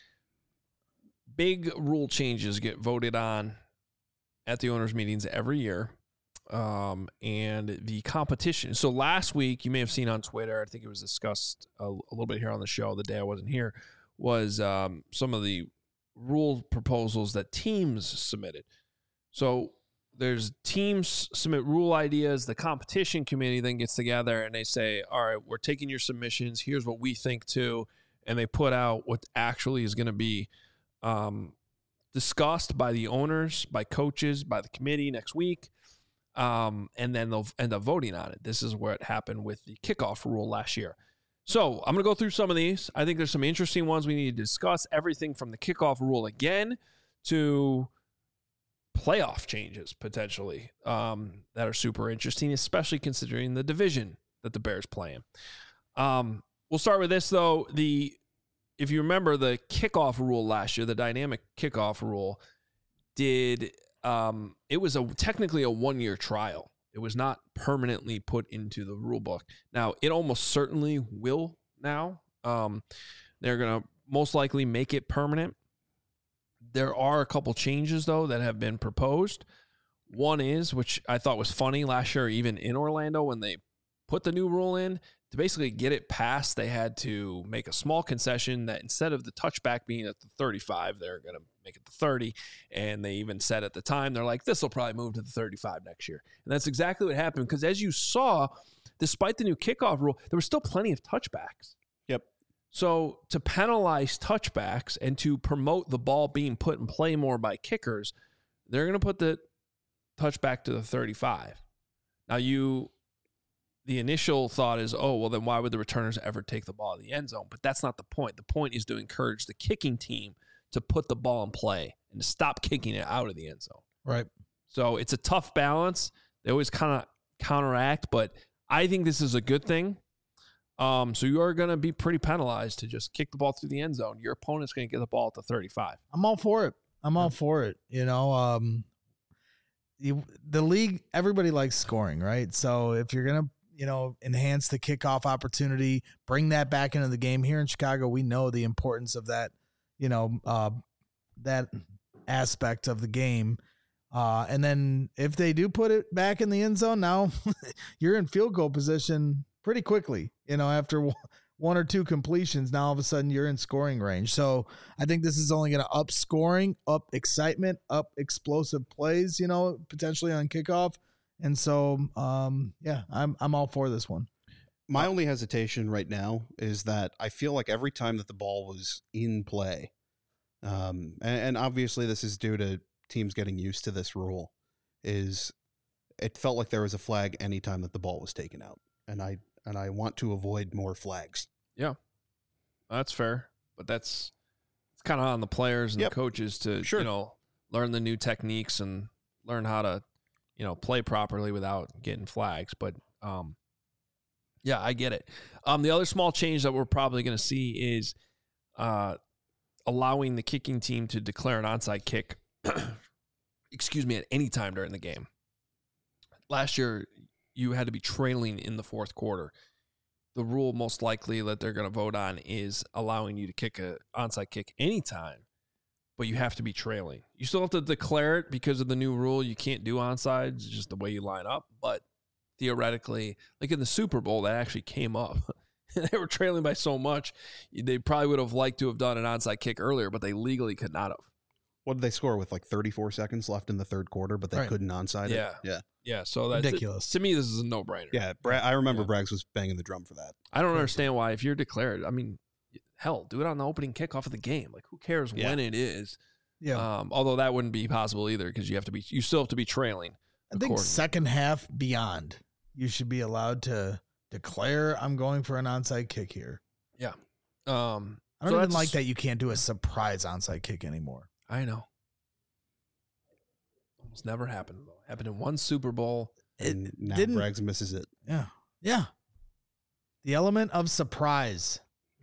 big rule changes get voted on at the owners' meetings every year, um, and the competition. So last week, you may have seen on Twitter, I think it was discussed a, a little bit here on the show the day I wasn't here, was um, some of the rule proposals that teams submitted. So there's teams submit rule ideas. The competition committee then gets together and they say, all right, we're taking your submissions. Here's what we think too. And they put out what actually is going to be um, discussed by the owners, by coaches, by the committee next week. Um, and then they'll end up voting on it. This is what happened with the kickoff rule last year. So I'm going to go through some of these. I think there's some interesting ones we need to discuss. Everything from the kickoff rule again to playoff changes potentially um, that are super interesting, especially considering the division that the Bears play in. Um, we'll start with this though. The if you remember the kickoff rule last year, the dynamic kickoff rule did um, it was a technically a one-year trial. It was not permanently put into the rule book. Now, it almost certainly will now. Um, they're going to most likely make it permanent. There are a couple changes, though, that have been proposed. One is, which I thought was funny last year, even in Orlando, when they put the new rule in, to basically get it passed, they had to make a small concession that instead of the touchback being at the thirty-five, they're going to make it the thirty. And they even said at the time, they're like, this will probably move to the thirty-five next year. And that's exactly what happened, because as you saw, despite the new kickoff rule, there were still plenty of touchbacks. Yep. So to penalize touchbacks and to promote the ball being put in play more by kickers, they're going to put the touchback to the thirty-five. Now, you, the initial thought is, oh, well, then why would the returners ever take the ball in the end zone? But that's not the point. The point is to encourage the kicking team to put the ball in play and to stop kicking it out of the end zone. Right. So it's a tough balance. They always kind of counteract, but I think this is a good thing. Um, so you are going to be pretty penalized to just kick the ball through the end zone. Your opponent's going to get the ball at the thirty-five. I'm all for it. I'm all for it. You know, um, you, the league, everybody likes scoring, right? So if you're going to, you know, enhance the kickoff opportunity, bring that back into the game here in Chicago, we know the importance of that, you know, uh, that aspect of the game. Uh, and then if they do put it back in the end zone, now you're in field goal position pretty quickly, you know, after one or two completions, now all of a sudden you're in scoring range. So I think this is only going to up scoring, up excitement, up explosive plays, you know, potentially on kickoff. And so, um, yeah, I'm, I'm all for this one. My only hesitation right now is that I feel like every time that the ball was in play, um, and, and obviously this is due to teams getting used to this rule, is it felt like there was a flag anytime that the ball was taken out. And I, and I want to avoid more flags. Yeah, that's fair. But that's it's kind of on the players and Yep. the coaches to, Sure. you know, learn the new techniques and learn how to, you know, play properly without getting flags. But, um, yeah, I get it. Um, the other small change that we're probably going to see is uh, allowing the kicking team to declare an onside kick, excuse me, at any time during the game. Last year, you had to be trailing in the fourth quarter. The rule most likely that they're going to vote on is allowing you to kick an onside kick anytime, but you have to be trailing. You still have to declare it because of the new rule. You can't do onsides, just the way you line up. But theoretically, like in the Super Bowl, that actually came up. They were trailing by so much, they probably would have liked to have done an onside kick earlier, but they legally could not have. What did they score with like thirty-four seconds left in the third quarter, but they Right. couldn't onside Yeah. it? Yeah. Yeah, so that's Ridiculous. To me, this is a no-brainer. Yeah. Bra- I remember Yeah. Braggs was banging the drum for that. I don't understand why, if you're declared, I mean, hell, do it on the opening kickoff of the game. Like, who cares Yeah. when it is? Yeah. Um, although that wouldn't be possible either because you have to be, you still have to be trailing. I think accordingly. second half beyond, you should be allowed to declare I'm going for an onside kick here. Um, I don't so even that's- like that you can't do a surprise onside kick anymore. I know. Almost never happened though. Happened in one Super Bowl. And It now didn't- Braggs misses it. Yeah. Yeah. The element of surprise.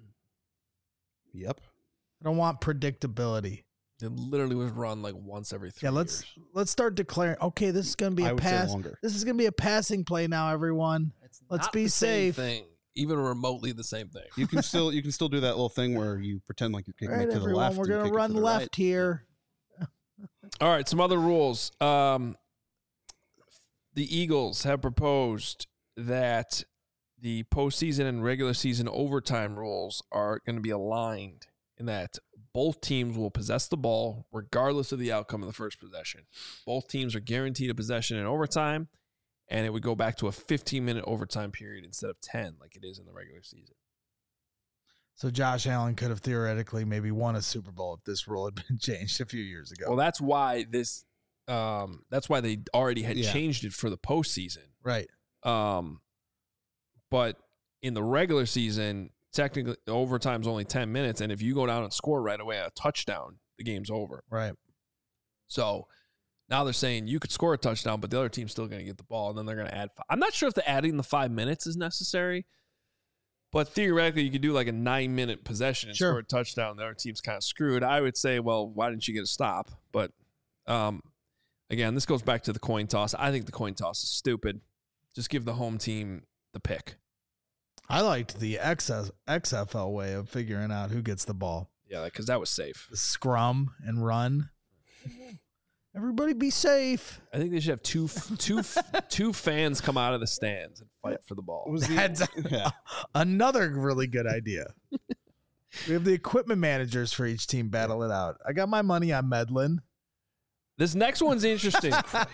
Yep. I don't want predictability. It literally was run like once every three Yeah, let's years. let's start declaring, okay, this is going to be I a would say pass. longer. This is going to be a passing play now, everyone. It's Let's not be the same safe. thing, even remotely the same thing. You can still you can still do that little thing where you pretend like you're All kicking right, it to the everyone, left. we're and going kick to it run to the left right. here. All right, some other rules. Um, the Eagles have proposed that the postseason and regular season overtime rules are going to be aligned in that both teams will possess the ball regardless of the outcome of the first possession. Both teams are guaranteed a possession in overtime, and it would go back to a fifteen-minute overtime period instead of ten like it is in the regular season. So Josh Allen could have theoretically maybe won a Super Bowl if this rule had been changed a few years ago. Well, that's why this um, that's why they already had Yeah. changed it for the postseason. right. Um, but in the regular season, technically overtime's only ten minutes, and if you go down and score right away a touchdown, the game's over. Right. So now they're saying you could score a touchdown, but the other team's still going to get the ball, and then they're going to add five. I'm not sure if the adding the five minutes is necessary, but theoretically you could do like a nine-minute possession and Sure. score a touchdown. The other team's kind of screwed. I would say, well, why didn't you get a stop? But um, again, this goes back to the coin toss. I think the coin toss is stupid. Just give the home team the pick. I liked the X F L way of figuring out who gets the ball. Yeah, because that was safe. The scrum and run. Everybody be safe. I think they should have two two two fans come out of the stands and fight for the ball. What was the- That's yeah. another really good idea. We have the equipment managers for each team battle it out. I got my money on Medlin. This next one's interesting.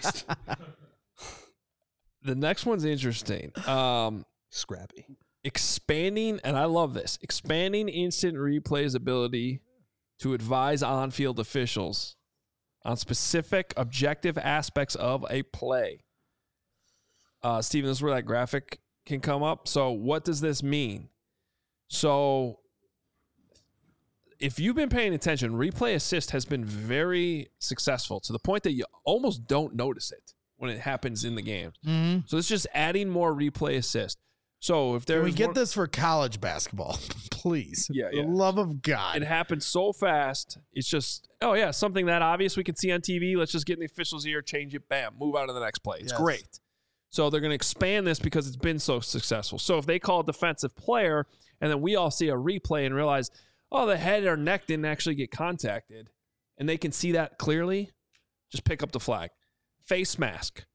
The next one's interesting. Um, Scrappy. expanding, and I love this, expanding instant replay's ability to advise on-field officials on specific objective aspects of a play. Uh, Steven, this is where that graphic can come up. So what does this mean? So if you've been paying attention, replay assist has been very successful to the point that you almost don't notice it. when it happens in the game. Mm-hmm. So it's just adding more replay assist. So if there's Can we get one, this for college basketball, please? Yeah, For yeah. the love of God. it happens so fast. It's just, oh yeah, something that obvious we can see on T V. Let's just get in the official's ear, change it, bam, move on to the next play. It's Yes. great. So they're going to expand this because it's been so successful. So if they call a defensive player and then we all see a replay and realize, oh, the head or neck didn't actually get contacted, and they can see that clearly, just pick up the flag. Face mask.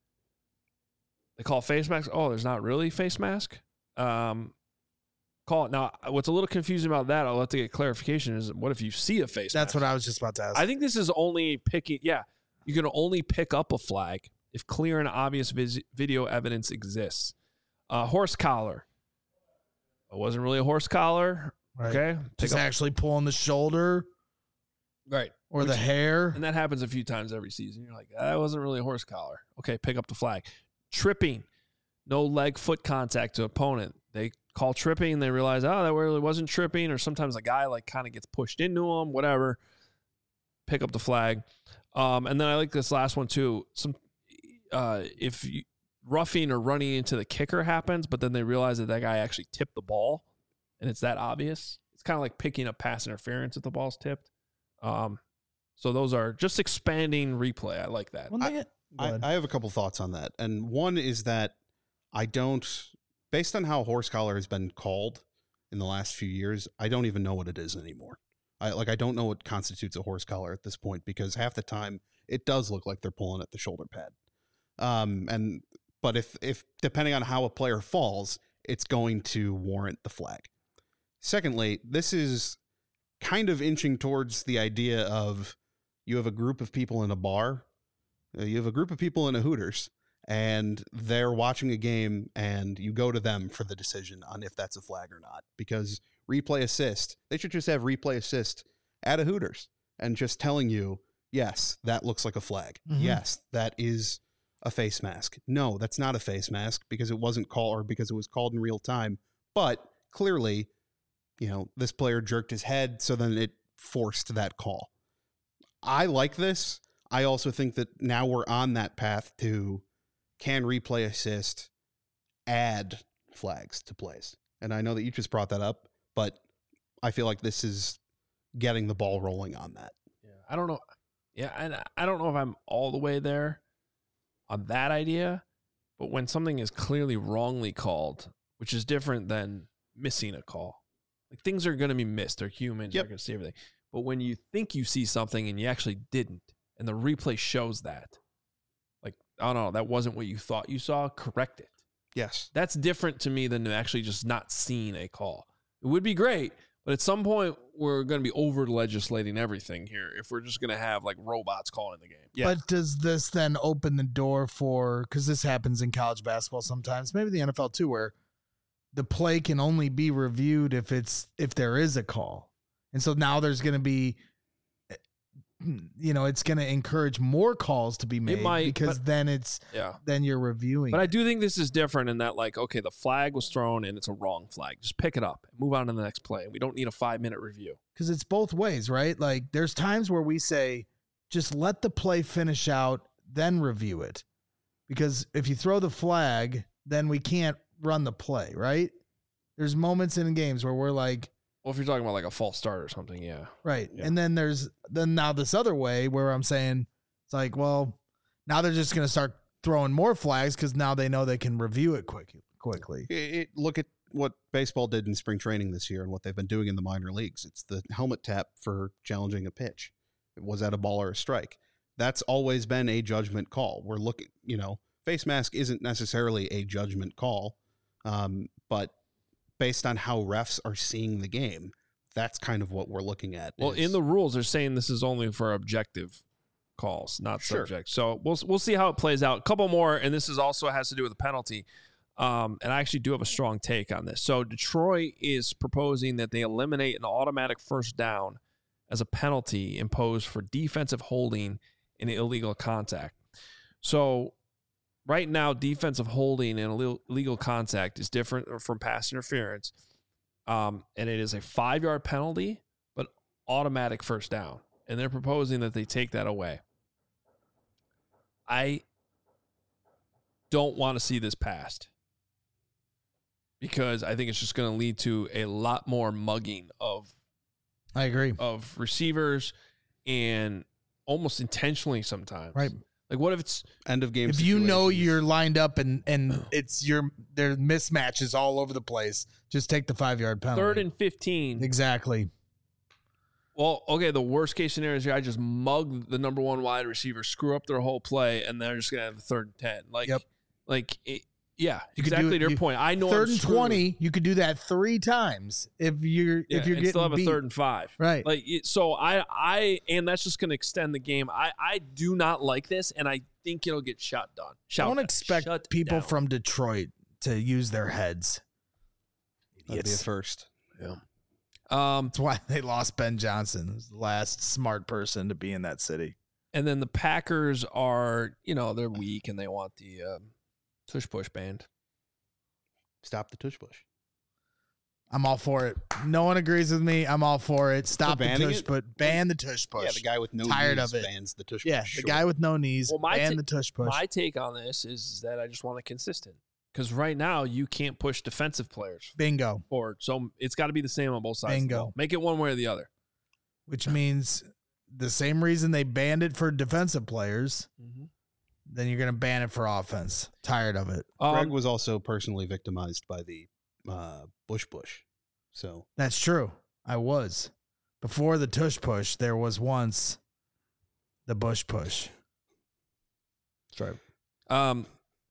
They call it face mask. Oh, there's not really face mask. Um, call it. Now, what's a little confusing about that, I'll let to get clarification, is what if you see a face That's mask? what I was just about to ask. I think this is only picking, yeah, you can only pick up a flag if clear and obvious vis- video evidence exists. Uh, horse collar. It wasn't really a horse collar. Right. Okay. Just Pick up- actually pulling the shoulder right. or the Which- hair. And that happens a few times every season. You're like, that wasn't really a horse collar. Okay, pick up the flag. Tripping. No leg foot contact to opponent. They call tripping. They realize, oh, that really wasn't tripping. Or sometimes a guy like kind of gets pushed into him, whatever. Pick up the flag. Um, and then I like this last one too. Some uh, if you, roughing or running into the kicker happens, but then they realize that that guy actually tipped the ball, and it's that obvious. It's kind of like picking up pass interference if the ball's tipped. Um, so those are just expanding replay. I like that. One thing I, I, I have a couple thoughts on that. And one is that I don't, based on how horse collar has been called in the last few years, I don't even know what it is anymore. I like I don't know what constitutes a horse collar at this point, because half the time it does look like they're pulling at the shoulder pad. Um, and but if if depending on how a player falls, it's going to warrant the flag. Secondly, this is kind of inching towards the idea of you have a group of people in a bar, uh, you have a group of people in a Hooters, and they're watching a game, and you go to them for the decision on if that's a flag or not. Because replay assist, they should just have replay assist at a Hooters and just telling you, yes, that looks like a flag. Mhm. Yes, that is a face mask. No, that's not a face mask because it wasn't called, or because it was called in real time. But clearly, you know, this player jerked his head, so then it forced that call. I like this. I also think that now we're on that path to, can replay assist add flags to plays? And I know that you just brought that up, but I feel like this is getting the ball rolling on that. Yeah, I don't know. Yeah, and I don't know if I'm all the way there on that idea, but when something is clearly wrongly called, which is different than missing a call, like things are going to be missed. They're humans. Yep. They're going to see everything. But when you think you see something and you actually didn't, and the replay shows that, like, I don't know, that wasn't what you thought you saw, correct it. Yes. That's different to me than actually just not seeing a call. It would be great, but at some point we're going to be over legislating everything here if we're just going to have like robots calling the game. Yeah. But does this then open the door for, because this happens in college basketball sometimes, maybe the N F L too, where the play can only be reviewed if it's if there is a call. And so now there's going to be, you know, it's going to encourage more calls to be made might, because but- then it's Yeah. then you're reviewing. But I do think this is different in that, like, okay, the flag was thrown and it's a wrong flag. Just pick it up and move on to the next play. We don't need a five minute review. Because it's both ways, right? Like there's times where we say, just let the play finish out, then review it. Because if you throw the flag, then we can't run the play, right? There's moments in games where we're like, Well, if you're talking about like a false start or something, yeah. right. Yeah. And then there's then now this other way where I'm saying it's like, well, now they're just going to start throwing more flags because now they know they can review it quick, quickly. It, it, look at what baseball did in spring training this year and what they've been doing in the minor leagues. It's the helmet tap for challenging a pitch. Was that a ball or a strike? That's always been a judgment call. We're looking, you know, face mask isn't necessarily a judgment call, um, but based on how refs are seeing the game, that's kind of what we're looking at. Well, is- in the rules, they're saying this is only for objective calls, not Sure. subject. So we'll we'll see how it plays out. A couple more, and this is also has to do with the penalty. Um, and I actually do have a strong take on this. So Detroit is proposing that they eliminate an automatic first down as a penalty imposed for defensive holding and illegal contact. So right now, defensive holding and illegal- illegal contact is different from pass interference. Um, and it is a five-yard penalty, but automatic first down. And they're proposing that they take that away. I don't want to see this passed because I think it's just going to lead to a lot more mugging of I agree. of receivers and almost intentionally sometimes. Right. Like what if it's End of game. If you know situations. you're lined up and and it's your there mismatches all over the place, just take the five yard penalty. third and fifteen? Exactly. Well, okay, the worst case scenario is I just mug the number one wide receiver, screw up their whole play, and they're just going to have a third and ten. Like, Yep. like it, yeah, You could exactly do- to your you- point. I know Third I'm and screwed. twenty, you could do that three times if you're Yeah, if you're and getting still have beat. a third and five. Right. Like it, so, I I and that's just going to extend the game. I I do not like this, and I think it'll get shut down. Shut Don't down. expect Shut people down. from Detroit to use their heads. That'd be a Idiots. first. Yeah. Um, That's why they lost Ben Johnson, who's the last smart person to be in that city. and then the Packers are, you know, they're weak and they want the um, tush push band. Stop the tush push. I'm all for it. No one agrees with me. I'm all for it. Stop the banning tush, it? but ban the tush push. Yeah, the guy with no Tired knees of it. bans the tush Yeah, push. the Sure. guy with no knees. Well, my ban ta- the tush push. My take on this is that I just want it consistent because right now you can't push defensive players Bingo. forward, so it's got to be the same on both sides. of the Bingo. ball. Make it one way or the other. Which means the same reason they banned it for defensive players, then you're going to ban it for offense. Tired of it. Greg Um, was also personally victimized by the uh, Bush Bush. So That's true. I was. Before the tush push, there was once the bush push. That's right. Um,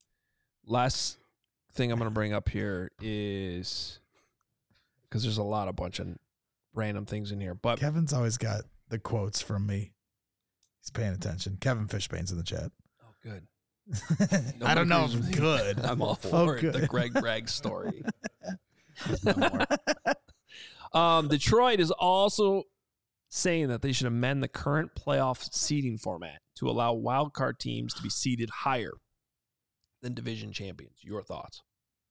last thing I'm going to bring up here is because there's a lot of bunch of random things in here, but Kevin's always got the quotes from me. He's paying attention. Kevin Fishbane's in the chat. oh, good. I don't know agrees if with me. good. I'm all Oh, for it. The good. Greg Bragg story. um, Detroit is also saying that they should amend the current playoff seeding format to allow wild card teams to be seeded higher than division champions. Your thoughts?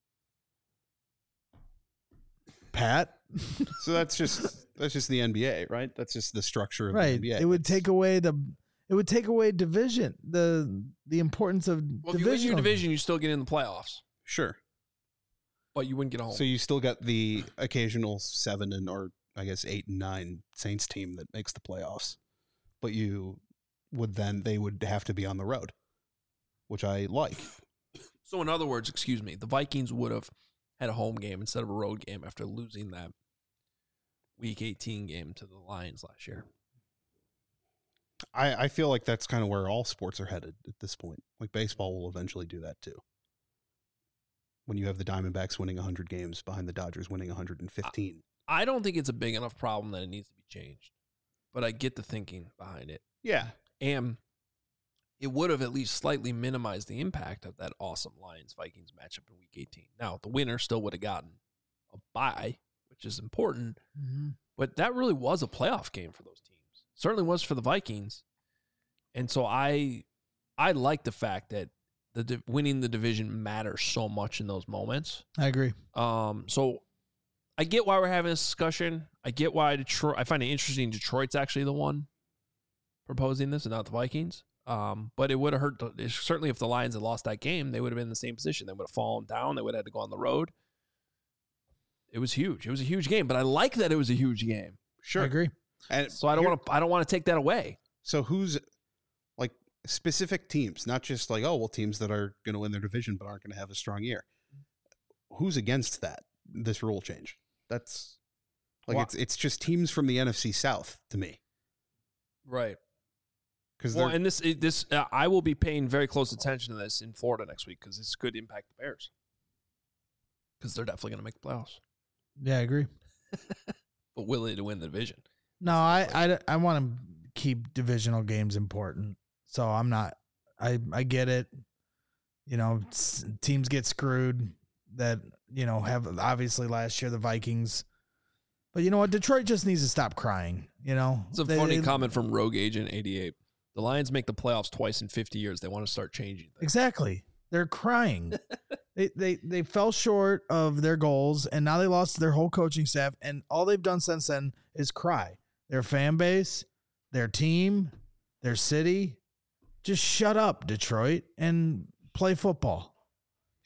Pat? so that's just that's just the N B A, right? That's just the structure of the Right. N B A. It would It's- take away the it would take away division, the the importance of Well, if you win division. your division, you still get in the playoffs, Sure. but you wouldn't get home. So you still got the occasional seven and or I guess eight and nine Saints team that makes the playoffs, but you would then they would have to be on the road, which I like. So in other words, excuse me, the Vikings would have had a home game instead of a road game after losing that Week eighteen game to the Lions last year. I, I feel like that's kind of where all sports are headed at this point. Like baseball will eventually do that too. When you have the Diamondbacks winning one hundred games behind the Dodgers winning one hundred fifteen. I don't think it's a big enough problem that it needs to be changed, but I get the thinking behind it. Yeah. And it would have at least slightly minimized the impact of that awesome Lions-Vikings matchup in Week eighteen. Now, the winner still would have gotten a bye, which is important, Mhm. but that really was a playoff game for those teams. Certainly was for the Vikings. And so I I like the fact that the di- winning the division matters so much in those moments. I agree. Um, so I get why we're having this discussion. I get why Detroit. I find it interesting. Detroit's actually the one proposing this, and not the Vikings. Um, but it would have hurt. The, certainly, if the Lions had lost that game, they would have been in the same position. They would have fallen down. They would have had to go on the road. It was huge. It was a huge game. But I like that it was a huge game. Sure. I agree. And So I don't here- want to. I don't want to take that away. So who's like specific teams, not just like, oh, well, teams that are going to win their division but aren't going to have a strong year. Who's against that, this rule change? That's like, Well- it's it's just teams from the N F C South to me. Right. Because Well, they're and this this uh, I will be paying very close attention to this in Florida next week because this could impact the Bears because they're definitely going to make the playoffs. Yeah, I agree. But will they to win the division? No, I I, I want to keep divisional games important. So I'm not. I I get it. You know, s- teams get screwed. That you know have obviously last year the Vikings. But you know what? Detroit just needs to stop crying. You know, It's a They- funny they- comment from Rogue Agent eighty-eight. The Lions make the playoffs twice in fifty years. They want to start changing things. Exactly. They're crying. they, they they fell short of their goals, and now they lost their whole coaching staff, and all they've done since then is cry. Their fan base, their team, their city. Just shut up, Detroit, and play football.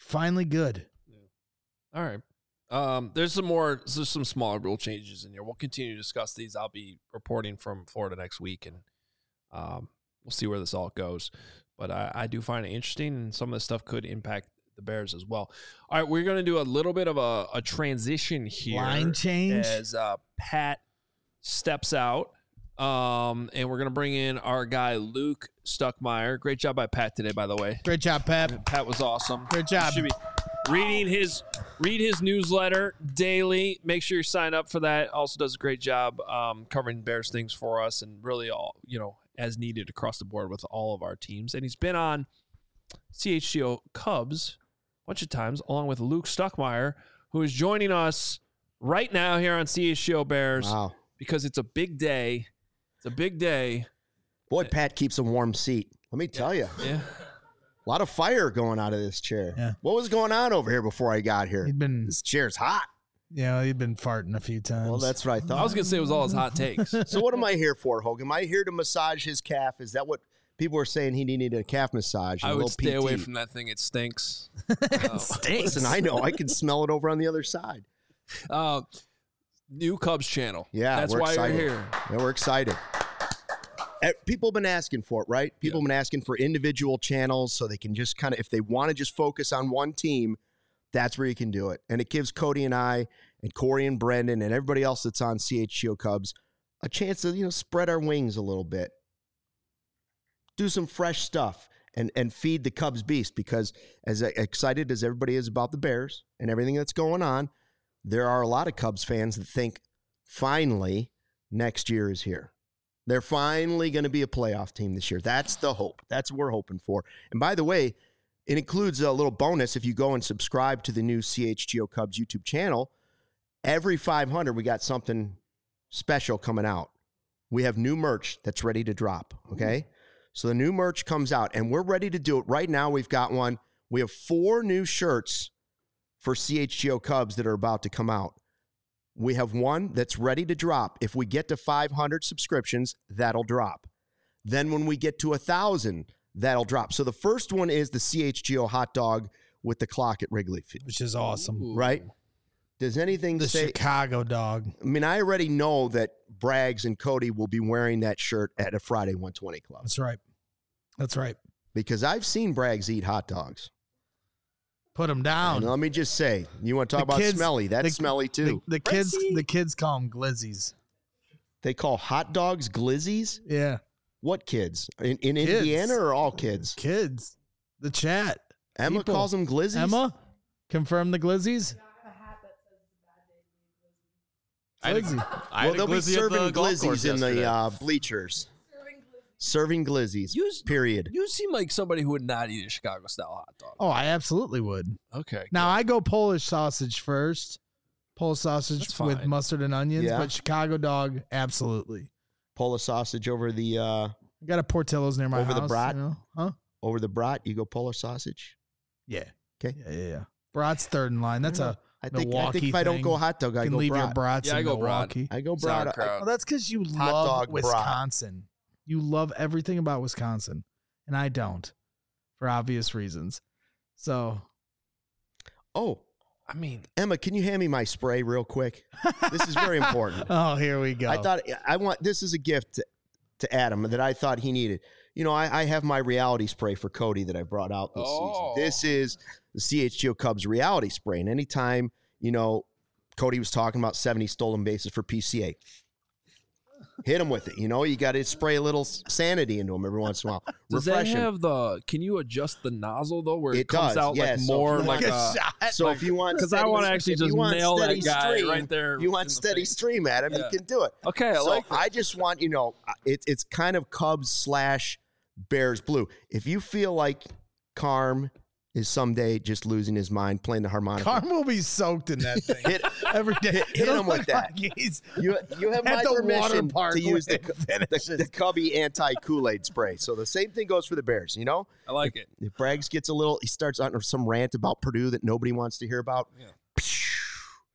Finally good. All right. Um, there's some more, there's some smaller rule changes in here. We'll continue to discuss these. I'll be reporting from Florida next week, and um, we'll see where this all goes. But I, I do find it interesting, and some of this stuff could impact the Bears as well. All right, we're going to do a little bit of a, a transition here. Line change? As uh, Pat steps out, um, and we're going to bring in our guy, Luke Stuckmeyer. Great job by Pat today, by the way. Great job, Pat. Pat was awesome. Great job. Should be reading his read his newsletter daily. Make sure you sign up for that. Also does a great job um, covering Bears things for us, and really all you know as needed across the board with all of our teams. And he's been on C H G O Cubs a bunch of times, along with Luke Stuckmeyer, who is joining us right now here on C H G O Bears. Wow. Because it's a big day. It's a big day. Boy, Pat keeps a warm seat. Let me tell you. Yeah. A lot of fire going out of this chair. Yeah. What was going on over here before I got here? He'd been, This chair's hot. yeah, he'd been farting a few times. Well, that's what I thought. I was going to say it was all his hot takes. So what am I here for, Hogan? Am I here to massage his calf? Is that what people were saying he needed a calf massage? I a would little stay P T? away from that thing. It stinks. Uh, Listen, I know. I can smell it over on the other side. Uh, new Cubs channel. Yeah, That's we're why excited. you're here. Yeah, we're excited. Eh, People have been asking for it, right? People Yeah. have been asking for individual channels so they can just kind of, if they want to just focus on one team, that's where you can do it. And it gives Cody and I and Corey and Brendan and everybody else that's on C H G O Cubs a chance to, you know, spread our wings a little bit. Do some fresh stuff and, and feed the Cubs beast, because as excited as everybody is about the Bears and everything that's going on, there are a lot of Cubs fans that think finally next year is here. They're finally going to be a playoff team this year. That's the hope. That's what we're hoping for. And by the way, it includes a little bonus if you go and subscribe to the new C H G O Cubs YouTube channel. Every five hundred, we got something special coming out. We have new merch that's ready to drop, okay? So the new merch comes out, and we're ready to do it. Right now, we've got one. We have four new shirts for C H G O Cubs that are about to come out. We have one that's ready to drop. If we get to five hundred subscriptions, that'll drop. Then when we get to one thousand, that'll drop. So the first one is the C H G O hot dog with the clock at Wrigley Field, which is awesome. Ooh. right? Does anything The say... Chicago dog. I mean, I already know that Braggs and Cody will be wearing that shirt at a Friday one twenty Club, That's right. That's right. because I've seen Braggs eat hot dogs. Put them down. And let me just say, you want to talk The about kids- smelly? That's the- smelly too. The, the kids, the kids call them glizzies. They call hot dogs glizzies? Yeah, What kids? In, in Kids. Indiana or all kids? kids. The chat. Emma People. calls them glizzies? Emma, confirm the glizzies. I had a- Glizzy. I Well, had a they'll be glizzy at the serving golf course glizzies in the yesterday. uh, bleachers. Serving glizzies, You, period. you seem like somebody who would not eat a Chicago style hot dog. Oh, I absolutely would. Okay. Now I go Polish sausage first. Polish sausage That's with fine. mustard and onions, Yeah. but Chicago dog, absolutely. Polish sausage over the uh, I got a Portillo's near my Over the house. brat? You know? Huh? over the brat. You go Polish sausage. Yeah. Okay. Yeah, yeah, yeah. Brat's third in line. That's a I think. I Milwaukee think if I don't thing. go hot dog, I you can go leave your brat. brats Yeah, I in go brat. Milwaukee. I go brat. I- Sauerkraut. Well, that's because you Hot love dog brat. Wisconsin. You love everything about Wisconsin, and I don't, for obvious reasons. So, Oh, I mean, Emma, can you hand me my spray real quick? This is very important. oh, here we go. I thought I want this is a gift to, to Adam that I thought he needed. You know, I, I have my reality spray for Cody that I brought out this Oh. season. This is the C H G O Cubs reality spray. And anytime, you know, Cody was talking about seventy stolen bases for P C A, hit him with it. You know, you got to spray a little sanity into him every once in a while. does Refresh that him. have the? Can you adjust the nozzle though, where it, It comes does, out yeah, like so more if you like want- a? shot. So if you want, Because I steady- want to actually if you just want nail that steady guy stream, right there. You want in the steady face. stream at him, Yeah. you can do it. Okay, I so like. I just want, you know, it's it's kind of Cubs slash Bears blue. If you feel like Carm is someday just losing his mind playing the harmonica, Carm will be soaked in that thing hit, every day. hit, hit It'll him with look that. like he's You you have at my the water permission park to use the, when it the, finishes. the Cubby anti Kool-Aid spray. So the same thing goes for the Bears. You know, I like it. if Braggs gets a little, he starts on some rant about Purdue that nobody wants to hear about. Yeah.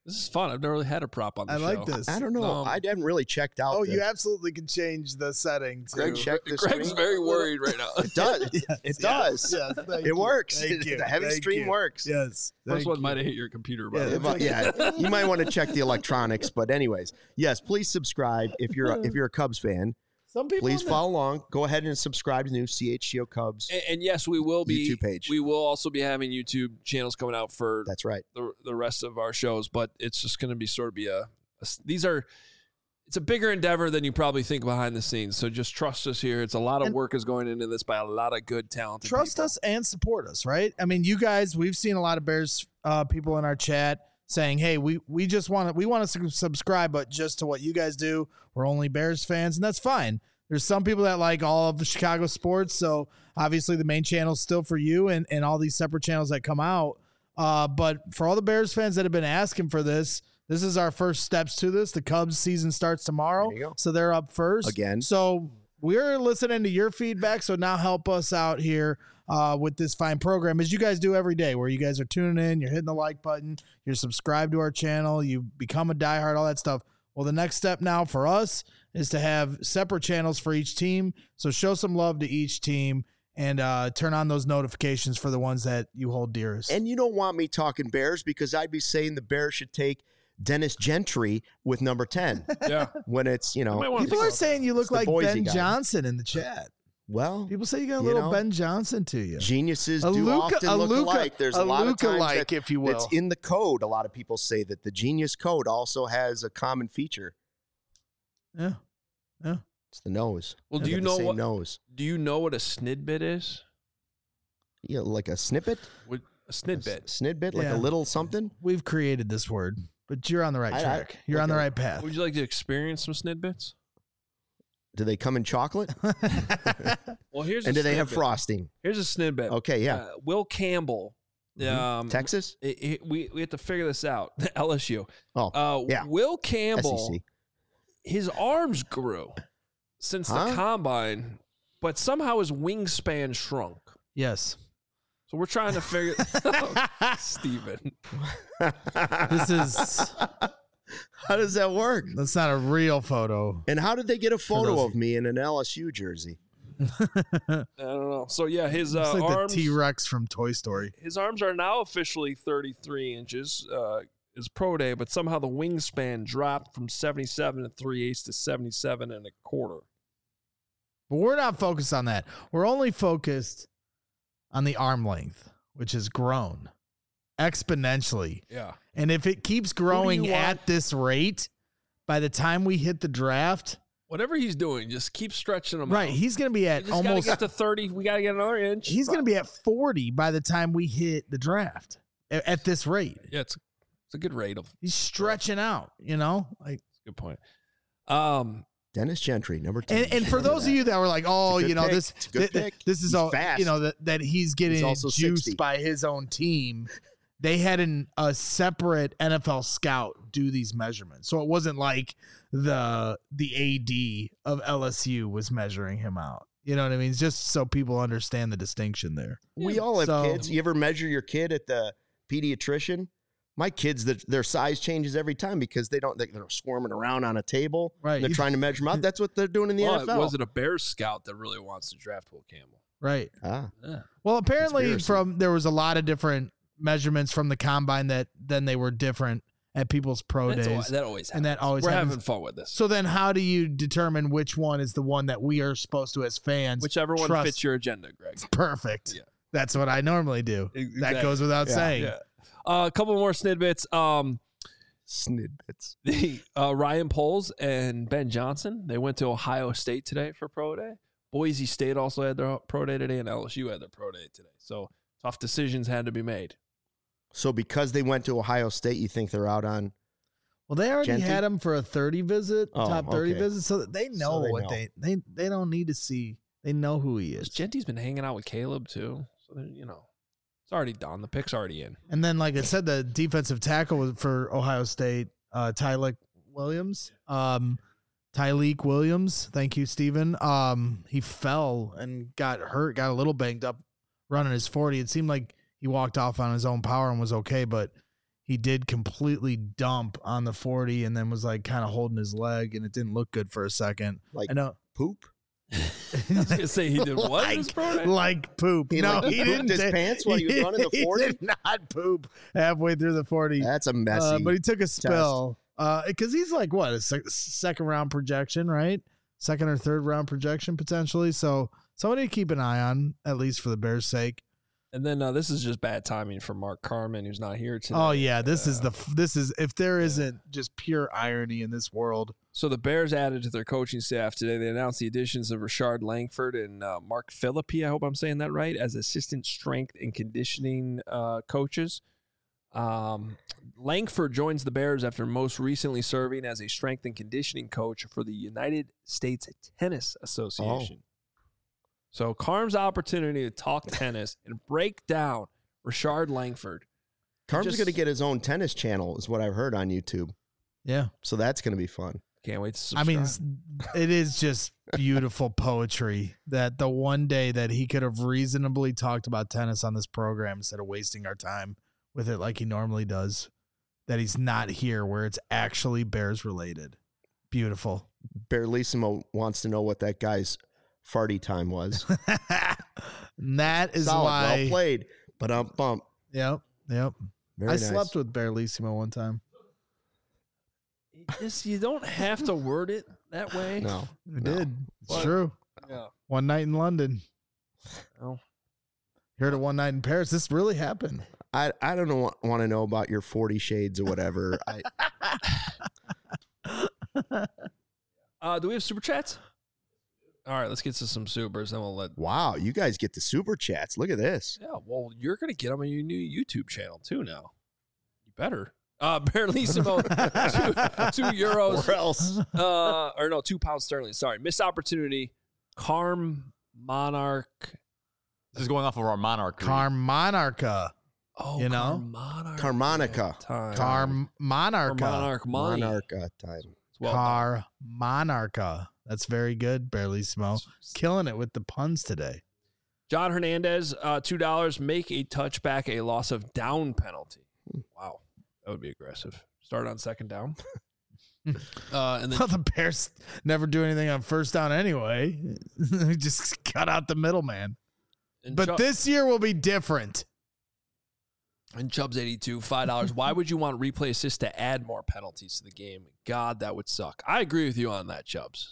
This is fun. I've never really had a prop on the I show. like this. I don't know. Um, I haven't really checked out. Oh, the, you absolutely can change the setting. To, Greg, check the Greg's screen. very worried right now. It does. Yes, It does. Yes, yes, thank It you. works. Thank you. The heavy Thank stream you. works. Yes. First thank one you. might have hit your computer, by Yeah, the way. But yeah, you might want to check the electronics. But anyways, yes, please subscribe if you're a, if you're a Cubs fan. Some people Please in the- follow along. Go ahead and subscribe to the new C H G O Cubs. And, and yes, we will be YouTube page. We will also be having YouTube channels coming out for That's right. the the rest of our shows, but it's just going to be sort of be a, a. These are. It's a bigger endeavor than you probably think behind the scenes. So just trust us here. It's a lot of And- work is going into this by a lot of good talented trust people. us and support us, right? I mean, you guys, we've seen a lot of Bears uh, people in our chat saying, "Hey, we we just want to we want to subscribe, but just to what you guys do. We're only Bears fans, and that's fine." There's some people that like all of the Chicago sports, so obviously the main channel is still for you, and and all these separate channels that come out. Uh, but for all the Bears fans that have been asking for this, this is our first steps to this. The Cubs season starts tomorrow, There you go. so they're up first Again. So we're listening to your feedback. So now help us out here uh, with this fine program, as you guys do every day, where you guys are tuning in, you're hitting the like button, you're subscribed to our channel, you become a diehard, all that stuff. Well, the next step now for us is to have separate channels for each team. So show some love to each team and uh, turn on those notifications for the ones that you hold dearest. And you don't want me talking Bears because I'd be saying the Bears should take Dennis Gentry with number ten Yeah. when it's, you You might know, wanna People think are about saying you look It's the like Boise Ben guy. Johnson in the chat. well, People say you got a You little know, Ben Johnson to you. geniuses A do Luka- often a look Luka- alike. There's a, a lot of times Luka-like, that if you will. it's in the code. A lot of people say that the genius code also has a common feature. Yeah. Yeah. It's the nose. Well, They do you got the know same what? nose? Do you know what a snidbit is? Yeah, like a snippet, What, a snidbit. snidbit, like Yeah. a little something. We've created this word, but you're on the right I- I- track. You're on the okay. right path. Would you like to experience some snidbits? Do they come in chocolate? Well, here's and a do they have snidbit. frosting? Here's a snidbit. Okay, yeah. Uh, Will Campbell. Mhm. Um, Texas? it- it- we we have to figure this out. L S U. Oh, Uh, yeah. Will Campbell. S E C. His arms grew since Huh? the combine, but somehow his wingspan shrunk. Yes. So we're trying to figure. Steven. This is How does that work? that's not a real photo. And how did they get a photo those- of me in an L S U jersey? I don't know. So yeah, his uh, It's like arms. the T Rex from Toy Story. his arms are now officially thirty-three inches. Uh, is pro day, but somehow the wingspan dropped from seventy-seven and three eighths to seventy-seven and a quarter. But we're not focused on that. We're only focused on the arm length, which has grown exponentially. Yeah. And if it keeps growing you want? at this rate, by the time we hit the draft, Whatever he's doing, just keep stretching him right, out. he's going to be We at just gotta almost get to thirty. We got to get another inch. he's going to be at forty by the time we hit the draft a- at this rate. Yeah, it's it's a good rate of. He's stretching out, you know? Like Good point. Um, Dennis Gentry, number ten. and, and for those of you that were like, oh, It's a good you know, pick. this It's a good th- pick. this is He's all fast. you know that that he's getting also juiced sixty. by his own team. They had an, a separate N F L scout do these measurements, so it wasn't like the the A D of L S U was measuring him out. You know what I mean? It's just so people understand the distinction there. we all have So- kids. You ever measure your kid at the pediatrician? My kids, their, their size changes every time because they don't. They're swarming around on a table. Right. They're You- trying to measure them out. That's what they're doing in the well, N F L. was it a Bears scout that really wants to draft Will Campbell? Right. ah, Yeah. Well, apparently Conspiracy. from there was a lot of different measurements from the combine that then they were different at people's pro That's days. al- that always happens. And that always We're happens. having fun with this. So then how do you determine which one is the one that we are supposed to as fans? Whichever one trust? fits your agenda, Greg. Perfect. Yeah. That's what I normally do. Exactly. That goes without Yeah. saying. Yeah. Uh, a couple more snidbits. Um, snidbits. the uh, Ryan Poles and Ben Johnson, they went to Ohio State today for pro day. Boise State also had their pro day today, and L S U had their pro day today. So tough decisions had to be made. So because they went to Ohio State, you think they're out on? Well, they already Genty? had him for a thirty visit, Oh, top thirty okay. visit, so they know they what know. they they they don't need to see. They know who he is. Genty's been hanging out with Caleb too, so they're, you know, it's already done. The pick's already in. And then, like I said, the defensive tackle was for Ohio State, uh, Tyleek Williams. Um, Tyleek Williams. Thank you, Stephen. Um, he fell and got hurt, got a little banged up running his forty. It seemed like he walked off on his own power and was okay, but he did completely dump on the forty and then was like kind of holding his leg, and it didn't look good for a second. Like I know. poop. I was gonna say he did what? like, in this program? like poop. He, no, like, he pooped didn't. his ta- pants while he was running the He forty? did not poop halfway through the forty. That's a messy. Uh, but he took a spill because uh, he's like what a sec- second round projection, right? Second or third round projection potentially. So somebody to keep an eye on, at least for the Bears' sake. And then uh, this is just bad timing for Mark Carman, who's not here today. Oh yeah, this uh, is the this is if there isn't just pure irony in this world. So the Bears added to their coaching staff today. They announced the additions of Rashard Langford and uh, Mark Philippi, I hope I'm saying that right, as assistant strength and conditioning uh, coaches. Um, Langford joins the Bears after most recently serving as a strength and conditioning coach for the United States Tennis Association. Oh. So Carm's opportunity to talk tennis and break down Rashard Langford. Carm's Just- going to get his own tennis channel, is what I've heard on YouTube. Yeah. So that's going to be fun. Can't wait to I subscribe. mean, s- it is just beautiful poetry that the one day that he could have reasonably talked about tennis on this program instead of wasting our time with it like he normally does, that he's not here where it's actually Bears related. Beautiful. Barlissimo wants to know what that guy's farty time was. And that is Solid, why. well played, but um bump. Yep. Yep. Very I nice. slept with Barlissimo one time. Just, you don't have to word it that way. No, I no. did. It's What? true. Yeah. One night in London. Oh. Heard of one night in Paris. This really happened. I I don't know, want to know about your forty shades or whatever. I, Uh, do we have super chats? All right, let's get to some supers, then we'll let. wow, you guys get the super chats. Look at this. Yeah, well, you're gonna get them on your new YouTube channel too now. You better. Uh, Barlissimo, two, two euros. Or else. Uh, or no, two pounds sterling. Sorry, missed opportunity. Carm Monarch. This is going off of our Monarch. read. Carmonarca. Oh, You know? Carmonarch. Carmonica. Time. Carmonarca. Monarch money. Monarcha time. Well done. Carmonarca. That's very good, Barlissimo. Killing it with the puns today. John Hernandez, uh, two dollars. Make a touchback a loss of down penalty. Wow, that would be aggressive. Start on second down. uh, and then Well, the Bears never do anything on first down anyway. We just cut out the middleman. and But Chubb, this year will be different. and Chubb's eighty-two, five dollars. Why would you want replay assist to add more penalties to the game? God, that would suck. I agree with you on that, Chubbs.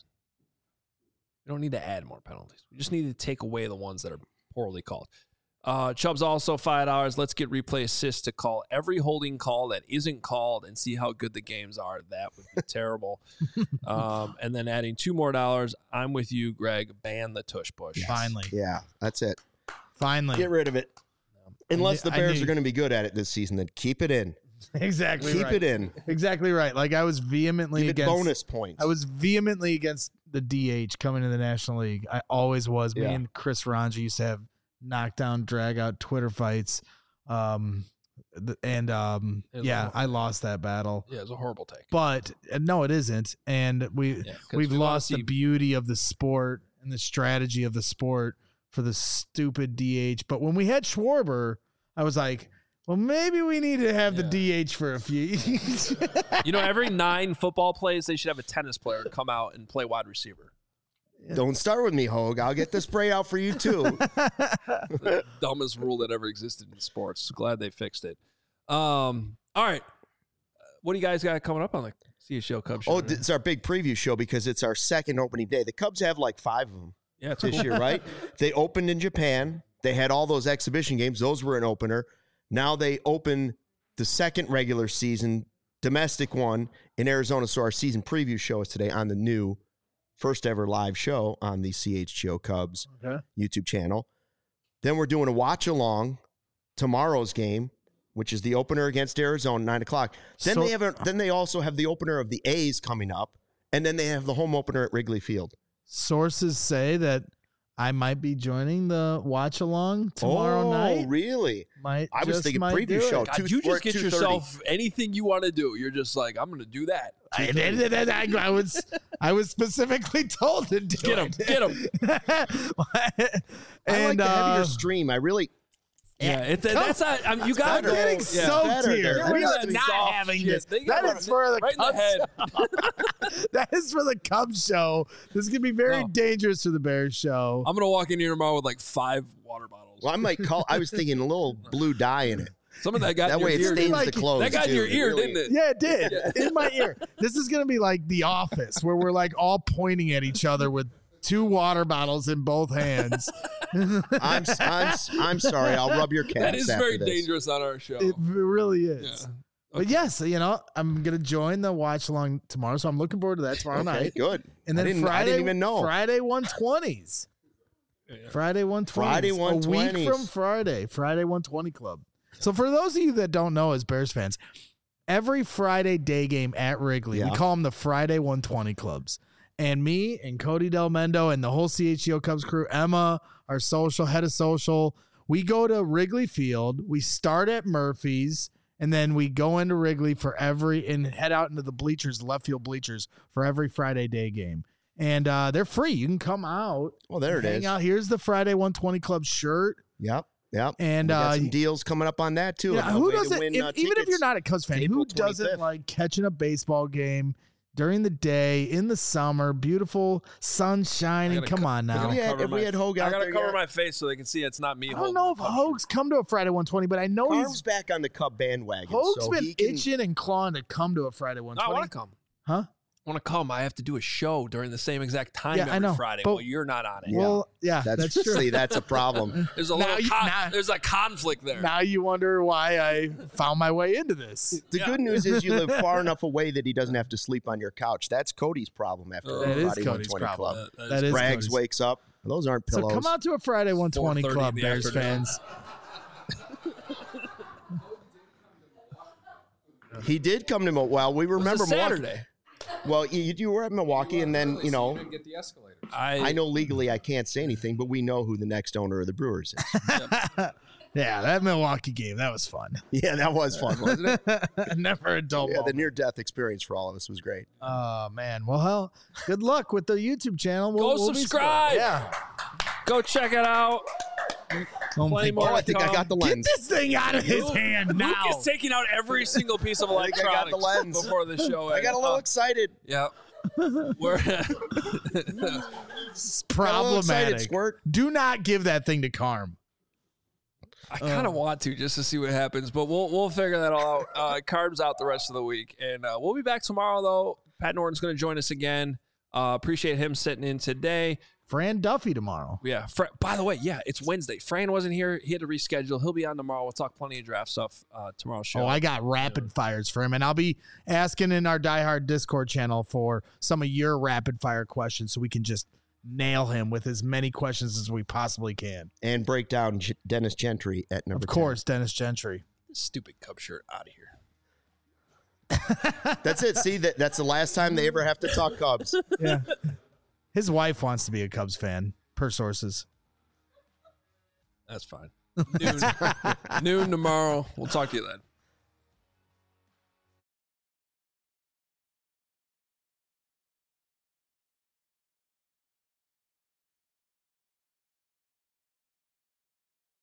We don't need to add more penalties. We just need to take away the ones that are poorly called. Uh, Chubb's also five dollars. Let's get replay assist to call every holding call that isn't called and see how good the games are. That would be terrible. Um, and then adding two more dollars. I'm with you, Greg. Ban the tush push. Finally. Yeah, that's it. Finally. Get rid of it. Unless I the knew- I Bears knew- are going to be good at it this season, then keep it in. Exactly Keep right. it in. Exactly right. Like I was vehemently Give it against bonus points. I was vehemently against the D H coming to the National League. I always was. Me Yeah. and Chris Ranji used to have knockdown, drag out Twitter fights. Um, th- and um, It was yeah, horrible. I lost that battle. Yeah, it was a horrible take. But uh, no, it isn't. And we Yeah, 'cause we've we wanna lost see- the beauty of the sport and the strategy of the sport for the stupid D H. But when we had Schwarber, I was like, well, maybe we need to have the Yeah. D H for a few. You know, every nine football plays, they should have a tennis player come out and play wide receiver. Don't start with me, Hogue. I'll get the spray out for you, too. The dumbest rule that ever existed in sports. Glad they fixed it. Um, all right. What do you guys got coming up on the C H L Cubs show? Oh, today? it's our big preview show because it's our second opening day. The Cubs have like five of them yeah, it's this cool. year, right? They opened in Japan. They had all those exhibition games. Those were an opener. Now they open the second regular season domestic one in Arizona. So our season preview show is today on the new first ever live show on the C H G O Cubs Okay. YouTube channel. Then we're doing a watch along tomorrow's game, which is the opener against Arizona, nine o'clock. Then So- they have a, then they also have the opener of the A's coming up, and then they have the home opener at Wrigley Field. Sources say that I might be joining the watch along tomorrow oh, night. really? Might I was just thinking might preview do show. it. God, two- you we're just at get two thirty. yourself anything you want to do. You're just like, I'm going to do that. I, I, I was I was specifically told to do Get him, it. get him. I like and the heavier uh, stream. I really, Yeah, it, that's not. I mean, you got to I'm go. getting yeah. soaked better. here. They're We are really not soft having shit. this. They That got is for the right in the Cubs head. show. That is for the Cubs show. This is gonna be very No. dangerous for the Bears show. I'm gonna walk in here tomorrow with like five water bottles. Well, I might call. I was thinking a little blue dye in it. Some of that got That in your way it ear. stains like- the clothes. That got in too. your ear, really- didn't it? Yeah, it did. In my ear. This is gonna be like The Office, where we're like all pointing at each other with two water bottles in both hands. I'm, I'm, I'm sorry. I'll rub your calves. That is after very this. dangerous on our show. It really is. Yeah. But yes, you know, I'm gonna join the watch along tomorrow, so I'm looking forward to that tomorrow Okay, night. good. And I then didn't- I Friday, didn't even know. Friday one twenties. Yeah. Friday one twenties. Friday A week 120s. from Friday. Friday one twenty Club. So for those of you that don't know, as Bears fans, every Friday day game at Wrigley, we Yeah. call them the Friday one twenty Clubs. And me and Cody Del Mendo and the whole C H G O Cubs crew, Emma, our social head of social, we go to Wrigley Field. We start at Murphy's. And then we go into Wrigley for every and head out into the bleachers, left field bleachers for every Friday day game. And uh, they're free. You can come out. Well, there it hang is. out. Here's the Friday one twenty Club shirt. Yep. Yep. And We got uh, some deals coming up on that too. yeah, A who way to doesn't? win, if- uh, even if you're tickets. not a Cubs fan, April who doesn't twenty-fifth. like catching a baseball game during the day in the summer, beautiful sun shining? gotta Come co- on I now. gotta If we had- cover if we my- had Hogue I out gotta there cover yet. my face so they can see it's not me. I don't holding know my if Cubs Hogue's come to a Friday one twenty, but I know Carm's he's back on the Cub bandwagon. Hogue's so been he can, itching and clawing to come to a Friday one shirt. No, I twenty. want to come. Huh? I want to come. I have to do a show during the same exact time Yeah, I every know, Friday. but- Well, you're not on it. Yeah. Well, yeah, That's, that's, true. See, that's a problem. There's a Now little you- con- now- there's a conflict there. Now you wonder why I found my way into this. The Yeah. good news is you live far enough away that he doesn't have to sleep on your couch. That's Cody's problem after Oh. a That is Friday Cody's one twenty problem. Club. Uh, That is Braggs Cody's. wakes up. Those aren't So pillows. come out to a Friday one twenty four thirty Club, in the Bears afternoon. fans. He did come to Milwaukee. Well, we It was a remember Milwaukee. Saturday. Well, you, you were at Milwaukee, and then you know. Get the escalator. I, I know legally I can't say anything, but we know who the next owner of the Brewers is. Yeah, that Milwaukee game, that was fun. Yeah, that was fun, wasn't it? Never a dull Yeah, the moment. near-death experience for all of us was great. Oh, man. Well, hell, good luck with the YouTube channel. We'll, Go we'll be- subscribe. Yeah. Go check it out. Oh, Plenty my more Oh, God. I think I got the Get lens. this thing out of his Luke- hand now. Luke is taking out every single piece of I think I got electronics the lens. before the show. I got a little Uh, excited. Yeah. We're It's Got a little excited, problematic. Squirt. Do not give that thing to Carm. I kind of Uh. want to just to see what happens, but we'll we'll figure that all out. Uh, Carbs out the rest of the week, and uh, we'll be back tomorrow. Though Pat Norton's going to join us again. Uh, appreciate him sitting in today. Fran Duffy tomorrow. Yeah. Fra- by the way, yeah, it's Wednesday. Fran wasn't here; he had to reschedule. He'll be on tomorrow. We'll talk plenty of draft stuff uh, tomorrow's show. Oh, I got rapid fires for him, and I'll be asking in our Die Hard Discord channel for some of your rapid fire questions so we can just nail him with as many questions as we possibly can. And break down G- Dennis Gentry at number Of course, Dennis Gentry. Stupid Cub shirt out of here. ten. That's it. See, that that's the last time they ever have to talk Cubs. Yeah. His wife wants to be a Cubs fan, per sources. That's fine. Noon, noon tomorrow. We'll talk to you then.